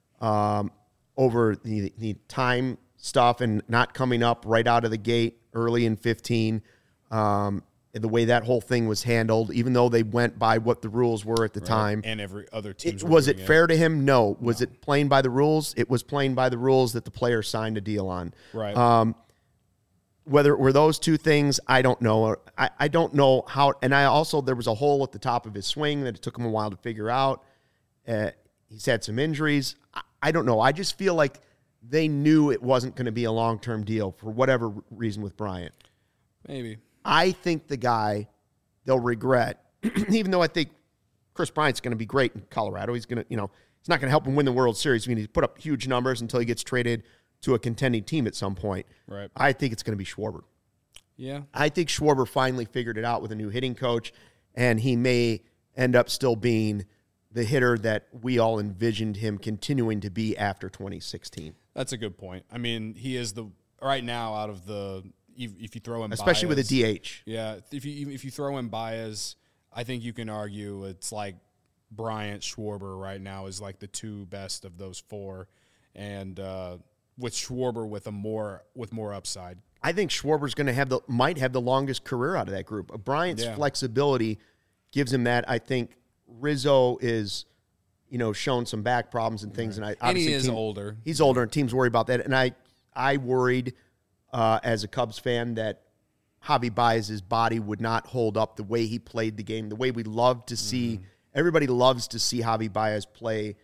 over the time stuff and not coming up right out of the gate early in 15, the way that whole thing was handled, even though they went by what the rules were at the time. And every other team. Was it fair to him? No. Was it playing by the rules? It was playing by the rules that the player signed a deal on. Right. Whether it were those two things, I don't know. I don't know how. And there was a hole at the top of his swing that it took him a while to figure out. He's had some injuries. I don't know. I just feel like they knew it wasn't going to be a long-term deal for whatever reason with Bryant. Maybe. I think the guy they'll regret, even though I think Chris Bryant's going to be great in Colorado. He's going to, he's not going to help him win the World Series. I mean, he's put up huge numbers until he gets traded to a contending team at some point. Right. I think it's going to be Schwarber. Yeah. I think Schwarber finally figured it out with a new hitting coach, and he may end up still being the hitter that we all envisioned him continuing to be after 2016. That's a good point. I mean, he is right now out of the if you throw in especially Baez, with a DH. Yeah, if you throw in Baez, I think you can argue it's like Bryant, Schwarber right now is like the two best of those four, and with Schwarber with more upside. I think Schwarber's going to might have the longest career out of that group. Bryant's flexibility gives him that. I think Rizzo is, shown some back problems and things, right. and he is older. He's older, and teams worry about that. And I worried as a Cubs fan that Javi Baez's body would not hold up the way he played the game, the way we love to see. Everybody loves to see Javi Baez play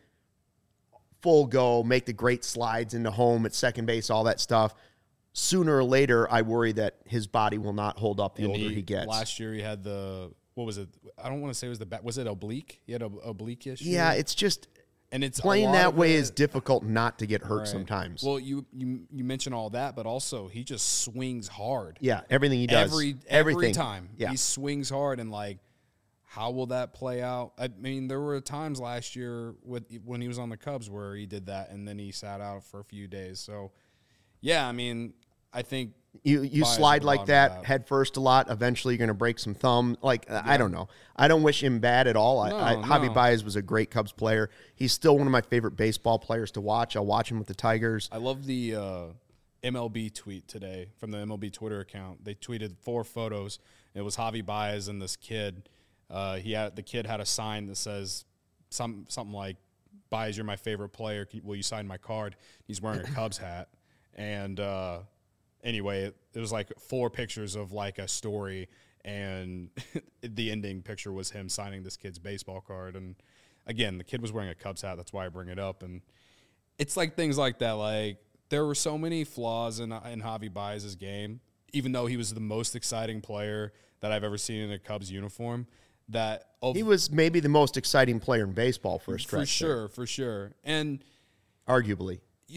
full go, make the great slides into home at second base, all that stuff. Sooner or later, I worry that his body will not hold up the older he gets. Last year, he had what was it? I don't want to say it was the back. Was it oblique? He had an oblique issue. Yeah, it's just and it's playing that way is difficult not to get hurt sometimes. Well, you mention all that, but also he just swings hard. Yeah, everything he does, every time he swings hard, and how will that play out? I mean, there were times last year when he was on the Cubs where he did that, and then he sat out for a few days. So, yeah, I mean, I think you slide like that head first a lot. Eventually, you're going to break some thumb. I don't know. I don't wish him bad at all. Javi Baez was a great Cubs player. He's still one of my favorite baseball players to watch. I'll watch him with the Tigers. I love the MLB tweet today from the MLB Twitter account. They tweeted 4 photos. It was Javi Baez and this kid. The kid had a sign that says something like, "Baez, you're my favorite player. Will you sign my card?" He's wearing a Cubs hat. And anyway, it was 4 pictures of a story, and the ending picture was him signing this kid's baseball card. And again, the kid was wearing a Cubs hat. That's why I bring it up. And it's things like that. There were so many flaws in Javi Baez's game, even though he was the most exciting player that I've ever seen in a Cubs uniform. He was maybe the most exciting player in baseball for a stretch. For sure. And arguably.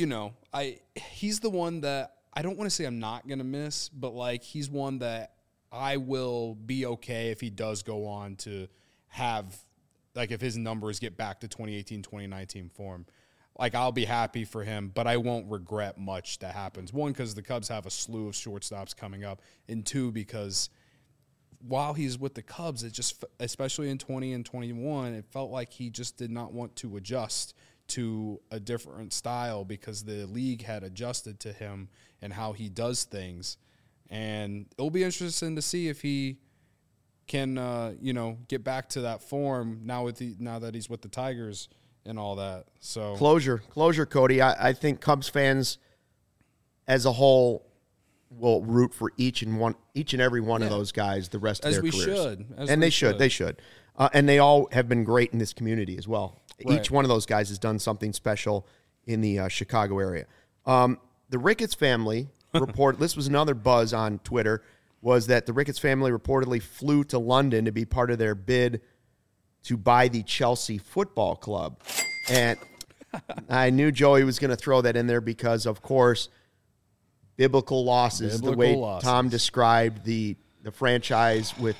He's the one that I don't want to say I'm not going to miss, but he's one that I will be okay if he does go on to have, if his numbers get back to 2018, 2019 form. I'll be happy for him, but I won't regret much that happens. 1, because the Cubs have a slew of shortstops coming up, and 2, because while he's with the Cubs, it just, especially in 20 and 21, it felt like he just did not want to adjust to a different style because the league had adjusted to him and how he does things. And it'll be interesting to see if he can, get back to that form now that he's with the Tigers and all that. So closure, Cody. I think Cubs fans as a whole will root for each and every one of those guys the rest of their careers. They should. And they all have been great in this community as well. Right. Each one of those guys has done something special in the Chicago area. The Ricketts family this was another buzz on Twitter, was that the Ricketts family reportedly flew to London to be part of their bid to buy the Chelsea Football Club. And I knew Joey was going to throw that in there because, of course, biblical losses, the way Tom described the franchise with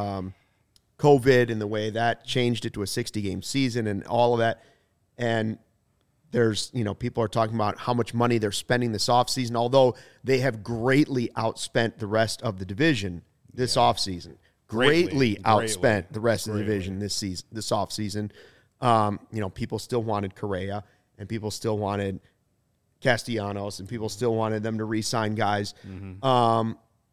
COVID and the way that changed it to a 60-game season and all of that. And there's, people are talking about how much money they're spending this offseason, although they have greatly outspent the rest of the division this offseason. Greatly outspent the rest of the division this offseason. People still wanted Correa, and people still wanted Castellanos, and people still wanted them to re-sign guys. Mm-hmm.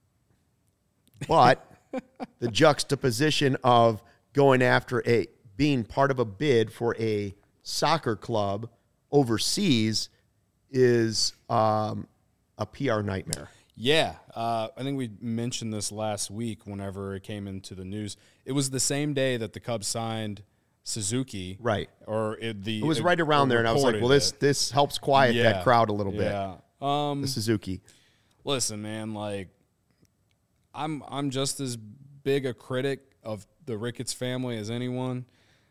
But the juxtaposition of going after being part of a bid for a soccer club overseas is a PR nightmare. Yeah. I think we mentioned this last week whenever it came into the news. It was the same day that the Cubs signed Suzuki. Right. Or it was right around there, and I was like, well, this helps quiet that crowd a little bit. Yeah. The Suzuki. Listen, man, like I'm just as big a critic of the Ricketts family as anyone.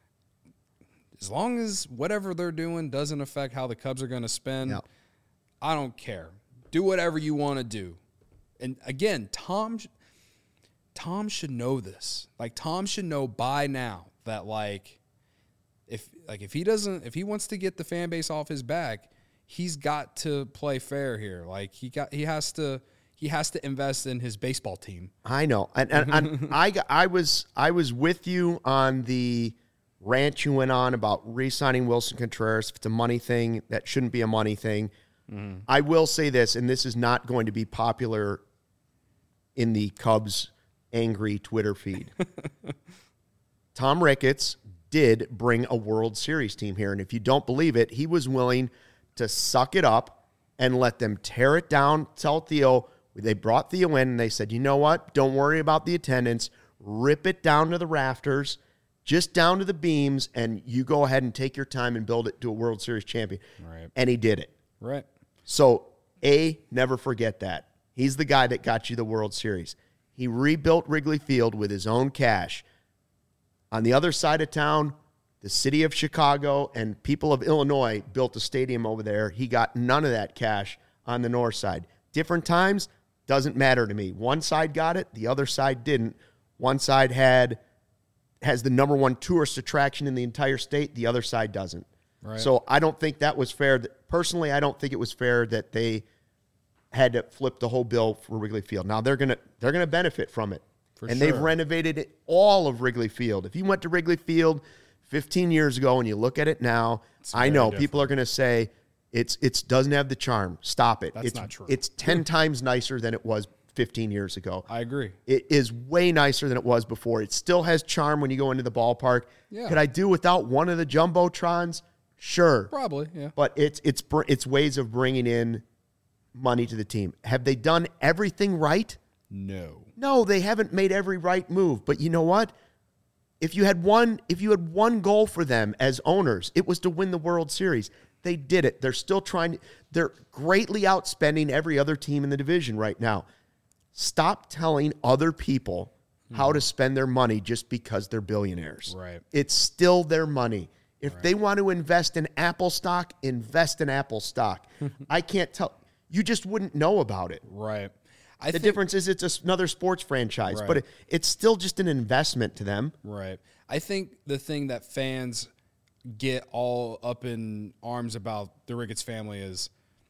As long as whatever they're doing doesn't affect how the Cubs are going to spend, I don't care. Do whatever you want to do. And again, Tom should know this. Like, Tom should know by now that if he wants to get the fan base off his back, he's got to play fair here. Like, he has to invest in his baseball team. I know. And I was with you on the rant you went on about re-signing Wilson Contreras. If it's a money thing, that shouldn't be a money thing. Mm-hmm. I will say this, and this is not going to be popular in the Cubs' angry Twitter feed. Tom Ricketts did bring a World Series team here, and if you don't believe it, he was willing to suck it up and let them tear it down, tell Theo. They brought Theo in, and they said, you know what? Don't worry about the attendance. Rip it down to the rafters, just down to the beams, and you go ahead and take your time and build it to a World Series champion. Right. And he did it. Right. So, never forget that. He's the guy that got you the World Series. He rebuilt Wrigley Field with his own cash. On the other side of town, the city of Chicago and people of Illinois built a stadium over there. He got none of that cash on the north side. Different times, doesn't matter to me. One side got it, the other side didn't. One side has the number one tourist attraction in the entire state, the other side doesn't. Right. So I don't think that was fair. Personally, I don't think it was fair that they had to flip the whole bill for Wrigley Field. Now they're gonna benefit from it. They've renovated all of Wrigley Field. If you went to Wrigley Field 15 years ago and you look at it now, I know people are going to say it doesn't have the charm. Stop it. That's not true. It's 10 times nicer than it was 15 years ago. I agree. It is way nicer than it was before. It still has charm when you go into the ballpark. Yeah. Could I do without one of the jumbotrons? Sure. Probably, yeah. But it's ways of bringing in money to the team. Have they done everything right? No, they haven't made every right move. But you know what? If you had one goal for them as owners, it was to win the World Series. They did it. They're still trying. They're greatly outspending every other team in the division right now. Stop telling other people how to spend their money just because they're billionaires. Right. It's still their money. If they want to invest in Apple stock, invest in Apple stock. I can't tell. You just wouldn't know about it. Right. The difference is it's another sports franchise, but it's still just an investment to them. Right. I think the thing that fans get all up in arms about the Ricketts family is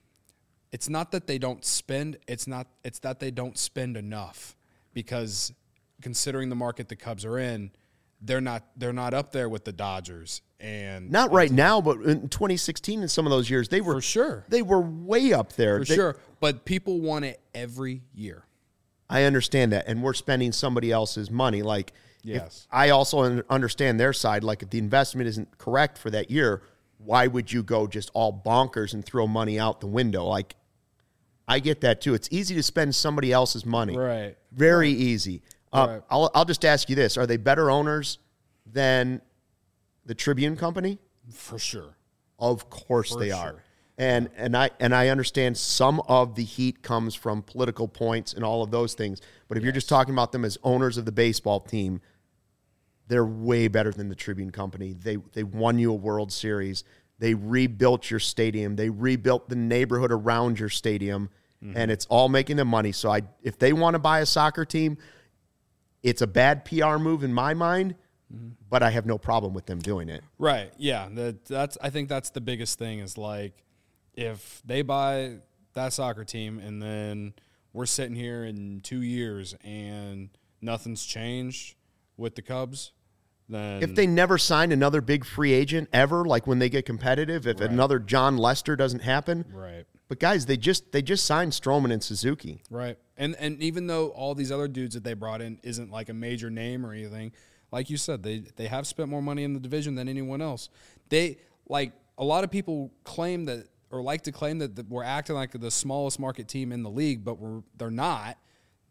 it's not that they don't spend, it's that they don't spend enough, because considering the market the Cubs are in, they're not up there with the Dodgers. And not right now, but in 2016 and some of those years, they were for sure. They were way up there. For sure. But people want it every year. I understand that, and we're spending somebody else's money. Like, yes, I also understand their side. Like, if the investment isn't correct for that year, why would you go just all bonkers and throw money out the window? Like, I get that too. It's easy to spend somebody else's money. Right. Very easy. Right. I'll just ask you this: are they better owners than the Tribune Company? For sure. Of course they are. And I understand some of the heat comes from political points and all of those things. But if you're just talking about them as owners of the baseball team, they're way better than the Tribune Company. They won you a World Series. They rebuilt your stadium. They rebuilt the neighborhood around your stadium, and it's all making them money. So if they want to buy a soccer team, it's a bad PR move in my mind, but I have no problem with them doing it. Right. Yeah. I think that's the biggest thing is, like, if they buy that soccer team and then we're sitting here in 2 years and nothing's changed with the Cubs, then if they never sign another big free agent ever, like when they get competitive, if another John Lester doesn't happen. Right. But guys, they just signed Stroman and Suzuki. Right. And even though all these other dudes that they brought in isn't like a major name or anything, like you said, they have spent more money in the division than anyone else. They, like, a lot of people claim that, or like to claim that we're acting like the smallest market team in the league, but they're not.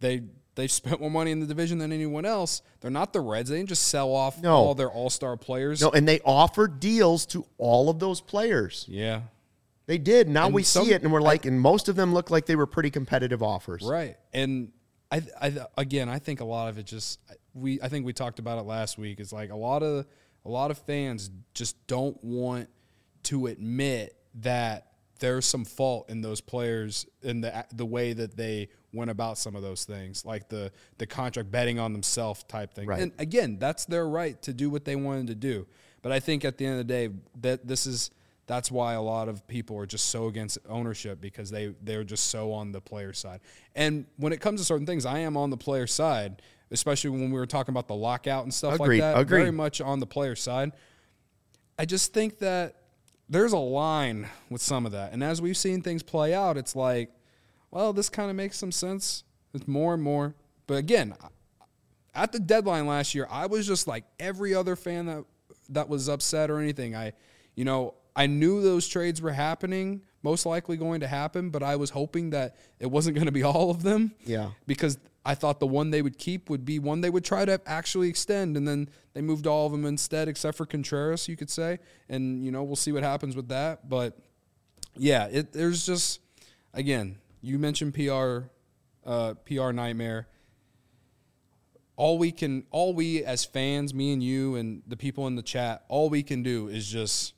They spent more money in the division than anyone else. They're not the Reds. They didn't just sell off No. all their all-star players. No, and they offered deals to all of those players. Yeah. They did. Now And we see it, and we're like, and most of them look like they were pretty competitive offers. Right. And I think a lot of it just I think we talked about it last week. It's like a lot of fans just don't want to admit that there's some fault in those players in the way that they went about some of those things, like the contract betting on themselves type thing. Right. And again, that's their right to do what they wanted to do. But I think at the end of the day, that's why a lot of people are just so against ownership, because they're just so on the player side. And when it comes to certain things, I am on the player side, especially when we were talking about the lockout and stuff Agreed. like that. Agreed. Very much on the player side. I just think that there's a line with some of that. And as we've seen things play out, it's like, well, this kind of makes some sense. It's more and more. But again, at the deadline last year, I was just like every other fan that was upset or anything. I knew those trades were happening, most likely going to happen, but I was hoping that it wasn't going to be all of them. Yeah. Because I thought the one they would keep would be one they would try to actually extend, and then they moved all of them instead, except for Contreras, you could say. And, we'll see what happens with that. But, yeah, there's just, again, you mentioned PR nightmare. All we as fans, me and you and the people in the chat, all we can do is just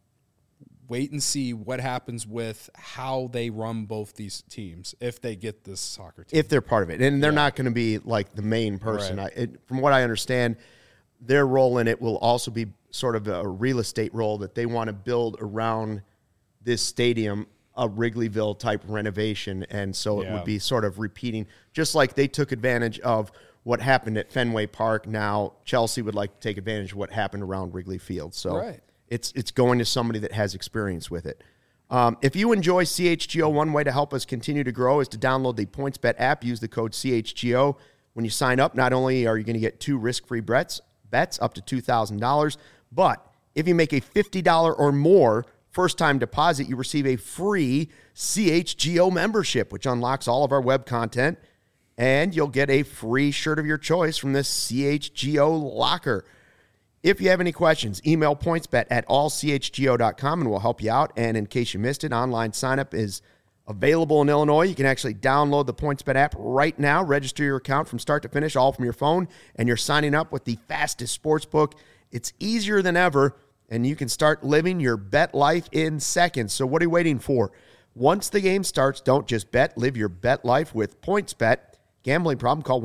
wait and see what happens with how they run both these teams if they get this soccer team. If they're part of it. And they're not going to be like the main person. Right. From what I understand, their role in it will also be sort of a real estate role that they want to build around this stadium, a Wrigleyville type renovation. And so it would be sort of repeating, just like they took advantage of what happened at Fenway Park. Now Chelsea would like to take advantage of what happened around Wrigley Field. So it's going to somebody that has experience with it. If you enjoy CHGO, one way to help us continue to grow is to download the PointsBet app. Use the code CHGO. When you sign up, not only are you going to get 2 risk-free bets up to $2,000, but if you make a $50 or more first-time deposit, you receive a free CHGO membership, which unlocks all of our web content, and you'll get a free shirt of your choice from this CHGO locker. If you have any questions, email pointsbet@allchgo.com and we'll help you out. And in case you missed it, online sign-up is available in Illinois. You can actually download the PointsBet app right now, register your account from start to finish, all from your phone, and you're signing up with the fastest sportsbook. It's easier than ever, and you can start living your bet life in seconds. So what are you waiting for? Once the game starts, don't just bet. Live your bet life with PointsBet. Gambling problem? Call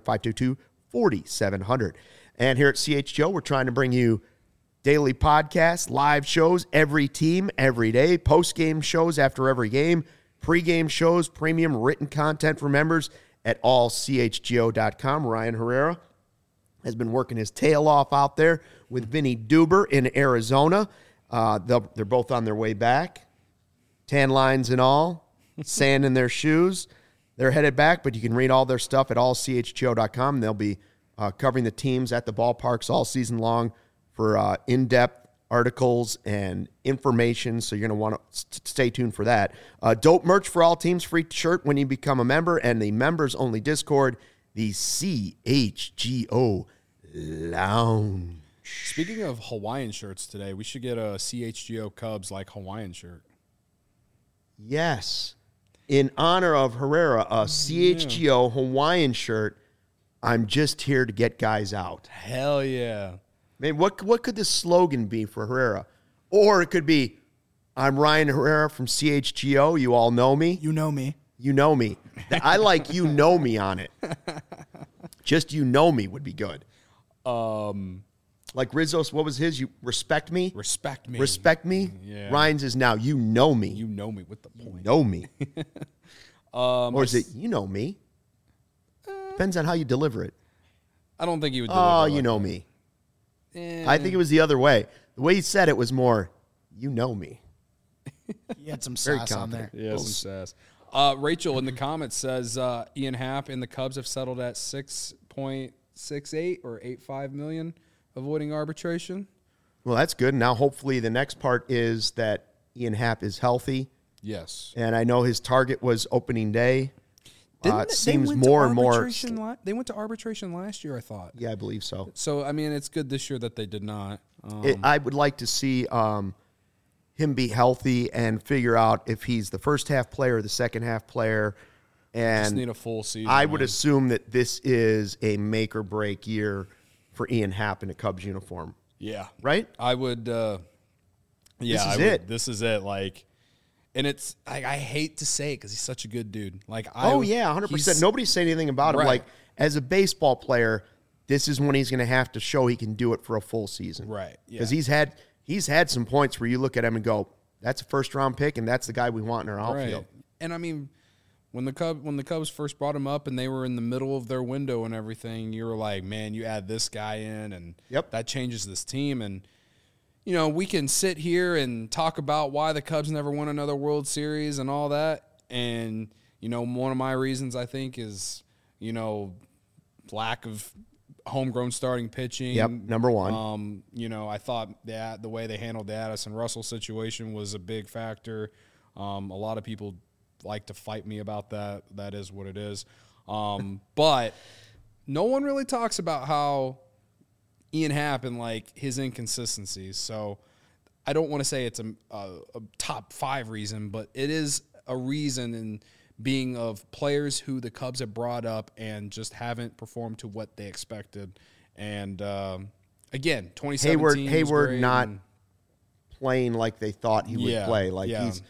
1-800-522-4700. And here at CHGO, we're trying to bring you daily podcasts, live shows, every team, every day, post-game shows after every game, pre-game shows, premium written content for members at allchgo.com. Ryan Herrera has been working his tail off out there with Vinny Duber in Arizona. They're both on their way back. Tan lines and all, sand in their shoes. They're headed back, but you can read all their stuff at allchgo.com. They'll be covering the teams at the ballparks all season long for in-depth articles and information, so you're going to want to stay tuned for that. Dope merch for all teams, free shirt when you become a member, and the members-only Discord, the CHGO Lounge. Speaking of Hawaiian shirts today, we should get a CHGO Cubs like Hawaiian shirt. Yes. In honor of Herrera, a CHGO Hawaiian shirt. I'm just here to get guys out. Hell yeah. Man, what could the slogan be for Herrera? Or it could be, I'm Ryan Herrera from CHGO. You all know me. You know me. You know me. I like you know me on it. Just you know me would be good. Like Rizzo's, what was his? You respect me? Respect me. Respect me? Yeah. Ryan's is now you know me. You know me with the point. You know me. Or is it you know me? Depends on how you deliver it. I don't think he would deliver Oh, it you like know that. me. I think it was the other way. The way he said it was more, you know me. You had some Very sauce on there. Yeah, some sass. Rachel in the comments says Ian Happ and the Cubs have settled at $6.68 or $8.5 million, avoiding arbitration. Well, that's good. Now, hopefully, the next part is that Ian Happ is healthy. Yes. And I know his target was opening day. seems more and more. They went to arbitration last year, I thought. Yeah, I believe so. So, I mean, it's good this year that they did not. I would like to see him be healthy and figure out if he's the first half player or the second half player. And just need a full season. I would assume that this is a make or break year for Ian Happ in a Cubs uniform. Yeah. Right? I would. This is it. Like, and it's I hate to say it because he's such a good dude. Like, 100%. Nobody's saying anything about him. Right. Like, as a baseball player, this is when he's going to have to show he can do it for a full season. Right. Because he's had some points where you look at him and go, that's a first round pick, and that's the guy we want in our outfield. Right. And I mean, when the Cubs first brought him up and they were in the middle of their window and everything, you were like, man, you add this guy in, and that changes this team. And you know, we can sit here and talk about why the Cubs never won another World Series and all that. And, you know, one of my reasons, I think, is, you know, lack of homegrown starting pitching. Yep, number one. You know, I thought that the way they handled the Addison Russell situation was a big factor. A lot of people like to fight me about that. That is what it is. But no one really talks about how Ian Happ and like his inconsistencies. So I don't want to say it's a top 5 reason, but it is a reason in being of players who the Cubs have brought up and just haven't performed to what they expected. And again, 2017 Hayward not playing like they thought he would play. Like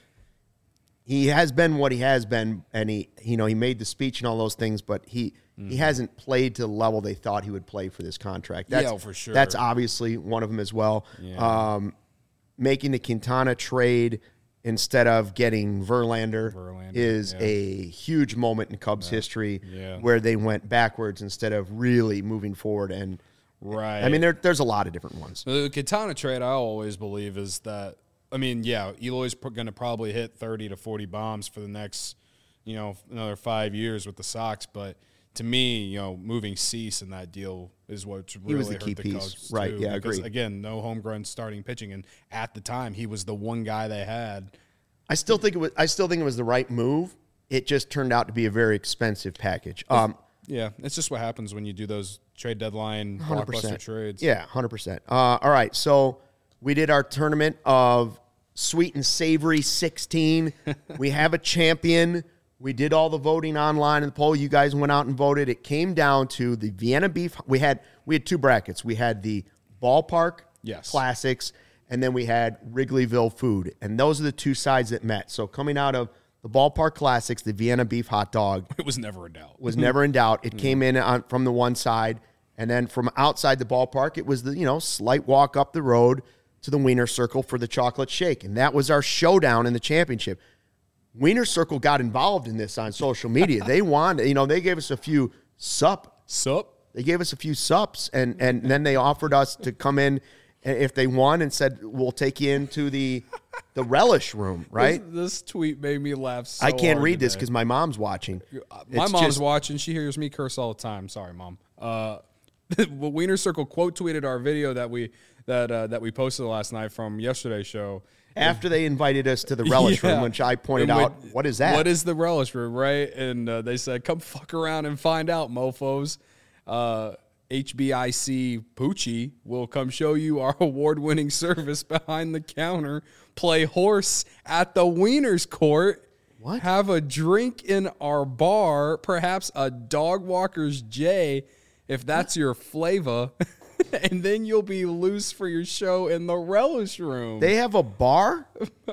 he has been what he has been, and he made the speech and all those things, but he hasn't played to the level they thought he would play for this contract. That's, for sure. That's obviously one of them as well. Yeah. Making the Quintana trade instead of getting Verlander is a huge moment in Cubs history where they went backwards instead of really moving forward. And right. I mean, there's a lot of different ones. The Quintana trade, I always believe, is that, I mean, Eloy's going to probably hit 30 to 40 bombs for the next, another 5 years with the Sox. But to me, moving Cease in that deal is what really was the key hurt the piece. Cubs Right, too, yeah, because, agreed. again, no homegrown starting pitching, and at the time, he was the one guy they had. I still think it was the right move. It just turned out to be a very expensive package. Yeah, it's just what happens when you do those trade deadline 100%. blockbuster trades. Yeah, 100%. All right, so we did our tournament of Sweet and Savory 16. We have a champion. We did all the voting online in the poll. You guys went out and voted. It came down to the Vienna Beef. We had 2 brackets. We had the Ballpark Classics, and then we had Wrigleyville Food. And those are the 2 sides that met. So coming out of the Ballpark Classics, the Vienna Beef hot dog. It was never in doubt. Was never in doubt. It came in from the one side. And then from outside the ballpark, it was the slight walk up the road to the Wiener Circle for the chocolate shake. And that was our showdown in the championship. Wiener Circle got involved in this on social media. They wanted, they gave us a few sup. They gave us a few sups, and then they offered us to come in if they won and said, we'll take you into the relish room, right? This tweet made me laugh so I can't hard read this today. because my mom's watching. My mom's watching. She hears me curse all the time. Sorry, Mom. Wiener Circle quote tweeted our video that we posted last night from yesterday's show. After they invited us to the relish room, which I pointed out, what is that? What is the relish room, right? And they said, come fuck around and find out, mofos. HBIC Poochie will come show you our award-winning service behind the counter, play horse at the Wiener's Court, What? have a drink in our bar, perhaps a dog walker's J, if that's your flavor, and then you'll be loose for your show in the relish room. They have a bar?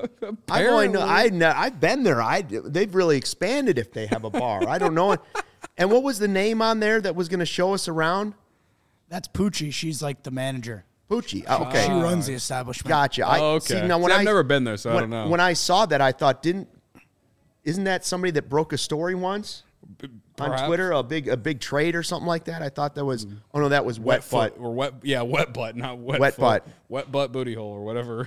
I've been there. They've really expanded if they have a bar. I don't know. And what was the name on there that was going to show us around? That's Poochie. She's like the manager. Poochie. Okay. She runs the establishment. Gotcha. Okay. See, now I've never been there, so I don't know. When I saw that, I thought, isn't that somebody that broke a story once on Twitter? A big trade or something like that? I thought that was. Oh no, that was wet butt or wet. Yeah, wet butt, not wet. Wet foot. butt. Wet butt booty hole or whatever.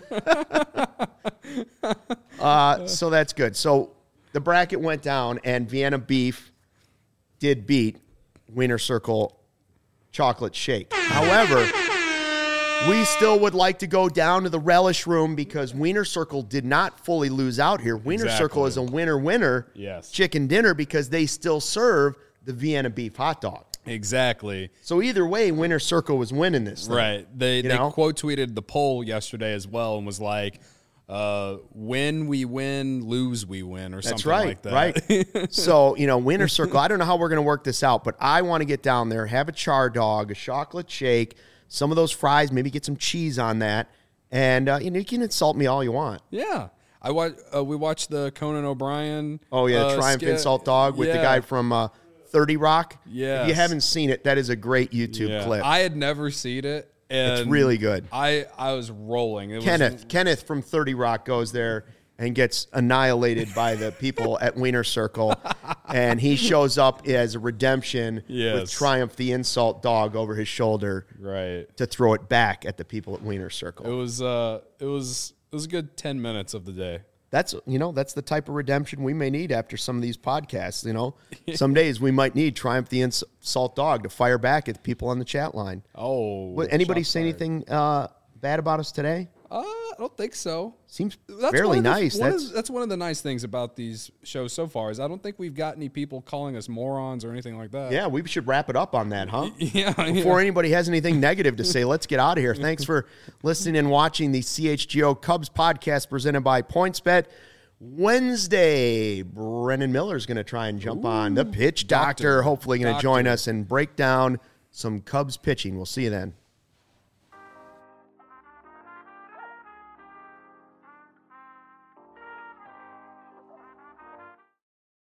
So that's good. So the bracket went down, and Vienna Beef did beat Wiener Circle Chocolate Shake. However, We still would like to go down to the relish room because Wiener Circle did not fully lose out here. Wiener Circle is a winner Yes. chicken dinner because they still serve the Vienna beef hot dog. Exactly. So either way, Wiener Circle was winning this thing. Right. They know? quote tweeted the poll yesterday as well and was like, win we win, lose we win, or That's something right, like that. right. So, Wiener Circle, I don't know how we're going to work this out, but I want to get down there, have a char dog, a chocolate shake, some of those fries, maybe get some cheese on that, and you can insult me all you want. Yeah. We watched the Conan O'Brien. Oh, yeah, Triumph skit. Insult Dog with the guy from 30 Rock. Yes. If you haven't seen it, that is a great YouTube clip. I had never seen it. And It's really good. I was rolling. It Kenneth from 30 Rock goes there and gets annihilated by the people at Wiener Circle, and he shows up as a redemption with Yes. Triumph the Insult Dog over his shoulder right. to throw it back at the people at Wiener Circle. It was a good 10 minutes of the day. That's the type of redemption we may need after some of these podcasts. Some days we might need Triumph the Insult Dog to fire back at the people on the chat line. Oh. Anybody shots say fired. anything bad about us today? I don't think so. Seems That's fairly one of the- nice. That's one of the nice things about these shows so far is I don't think we've got any people calling us morons or anything like that. Yeah, we should wrap it up on that, huh? Yeah. Before anybody has anything negative to say, let's get out of here. Thanks for listening and watching the CHGO Cubs podcast presented by PointsBet. Wednesday, Brennan Miller is going to try and jump on the pitch doctor. Hopefully going to join us and break down some Cubs pitching. We'll see you then.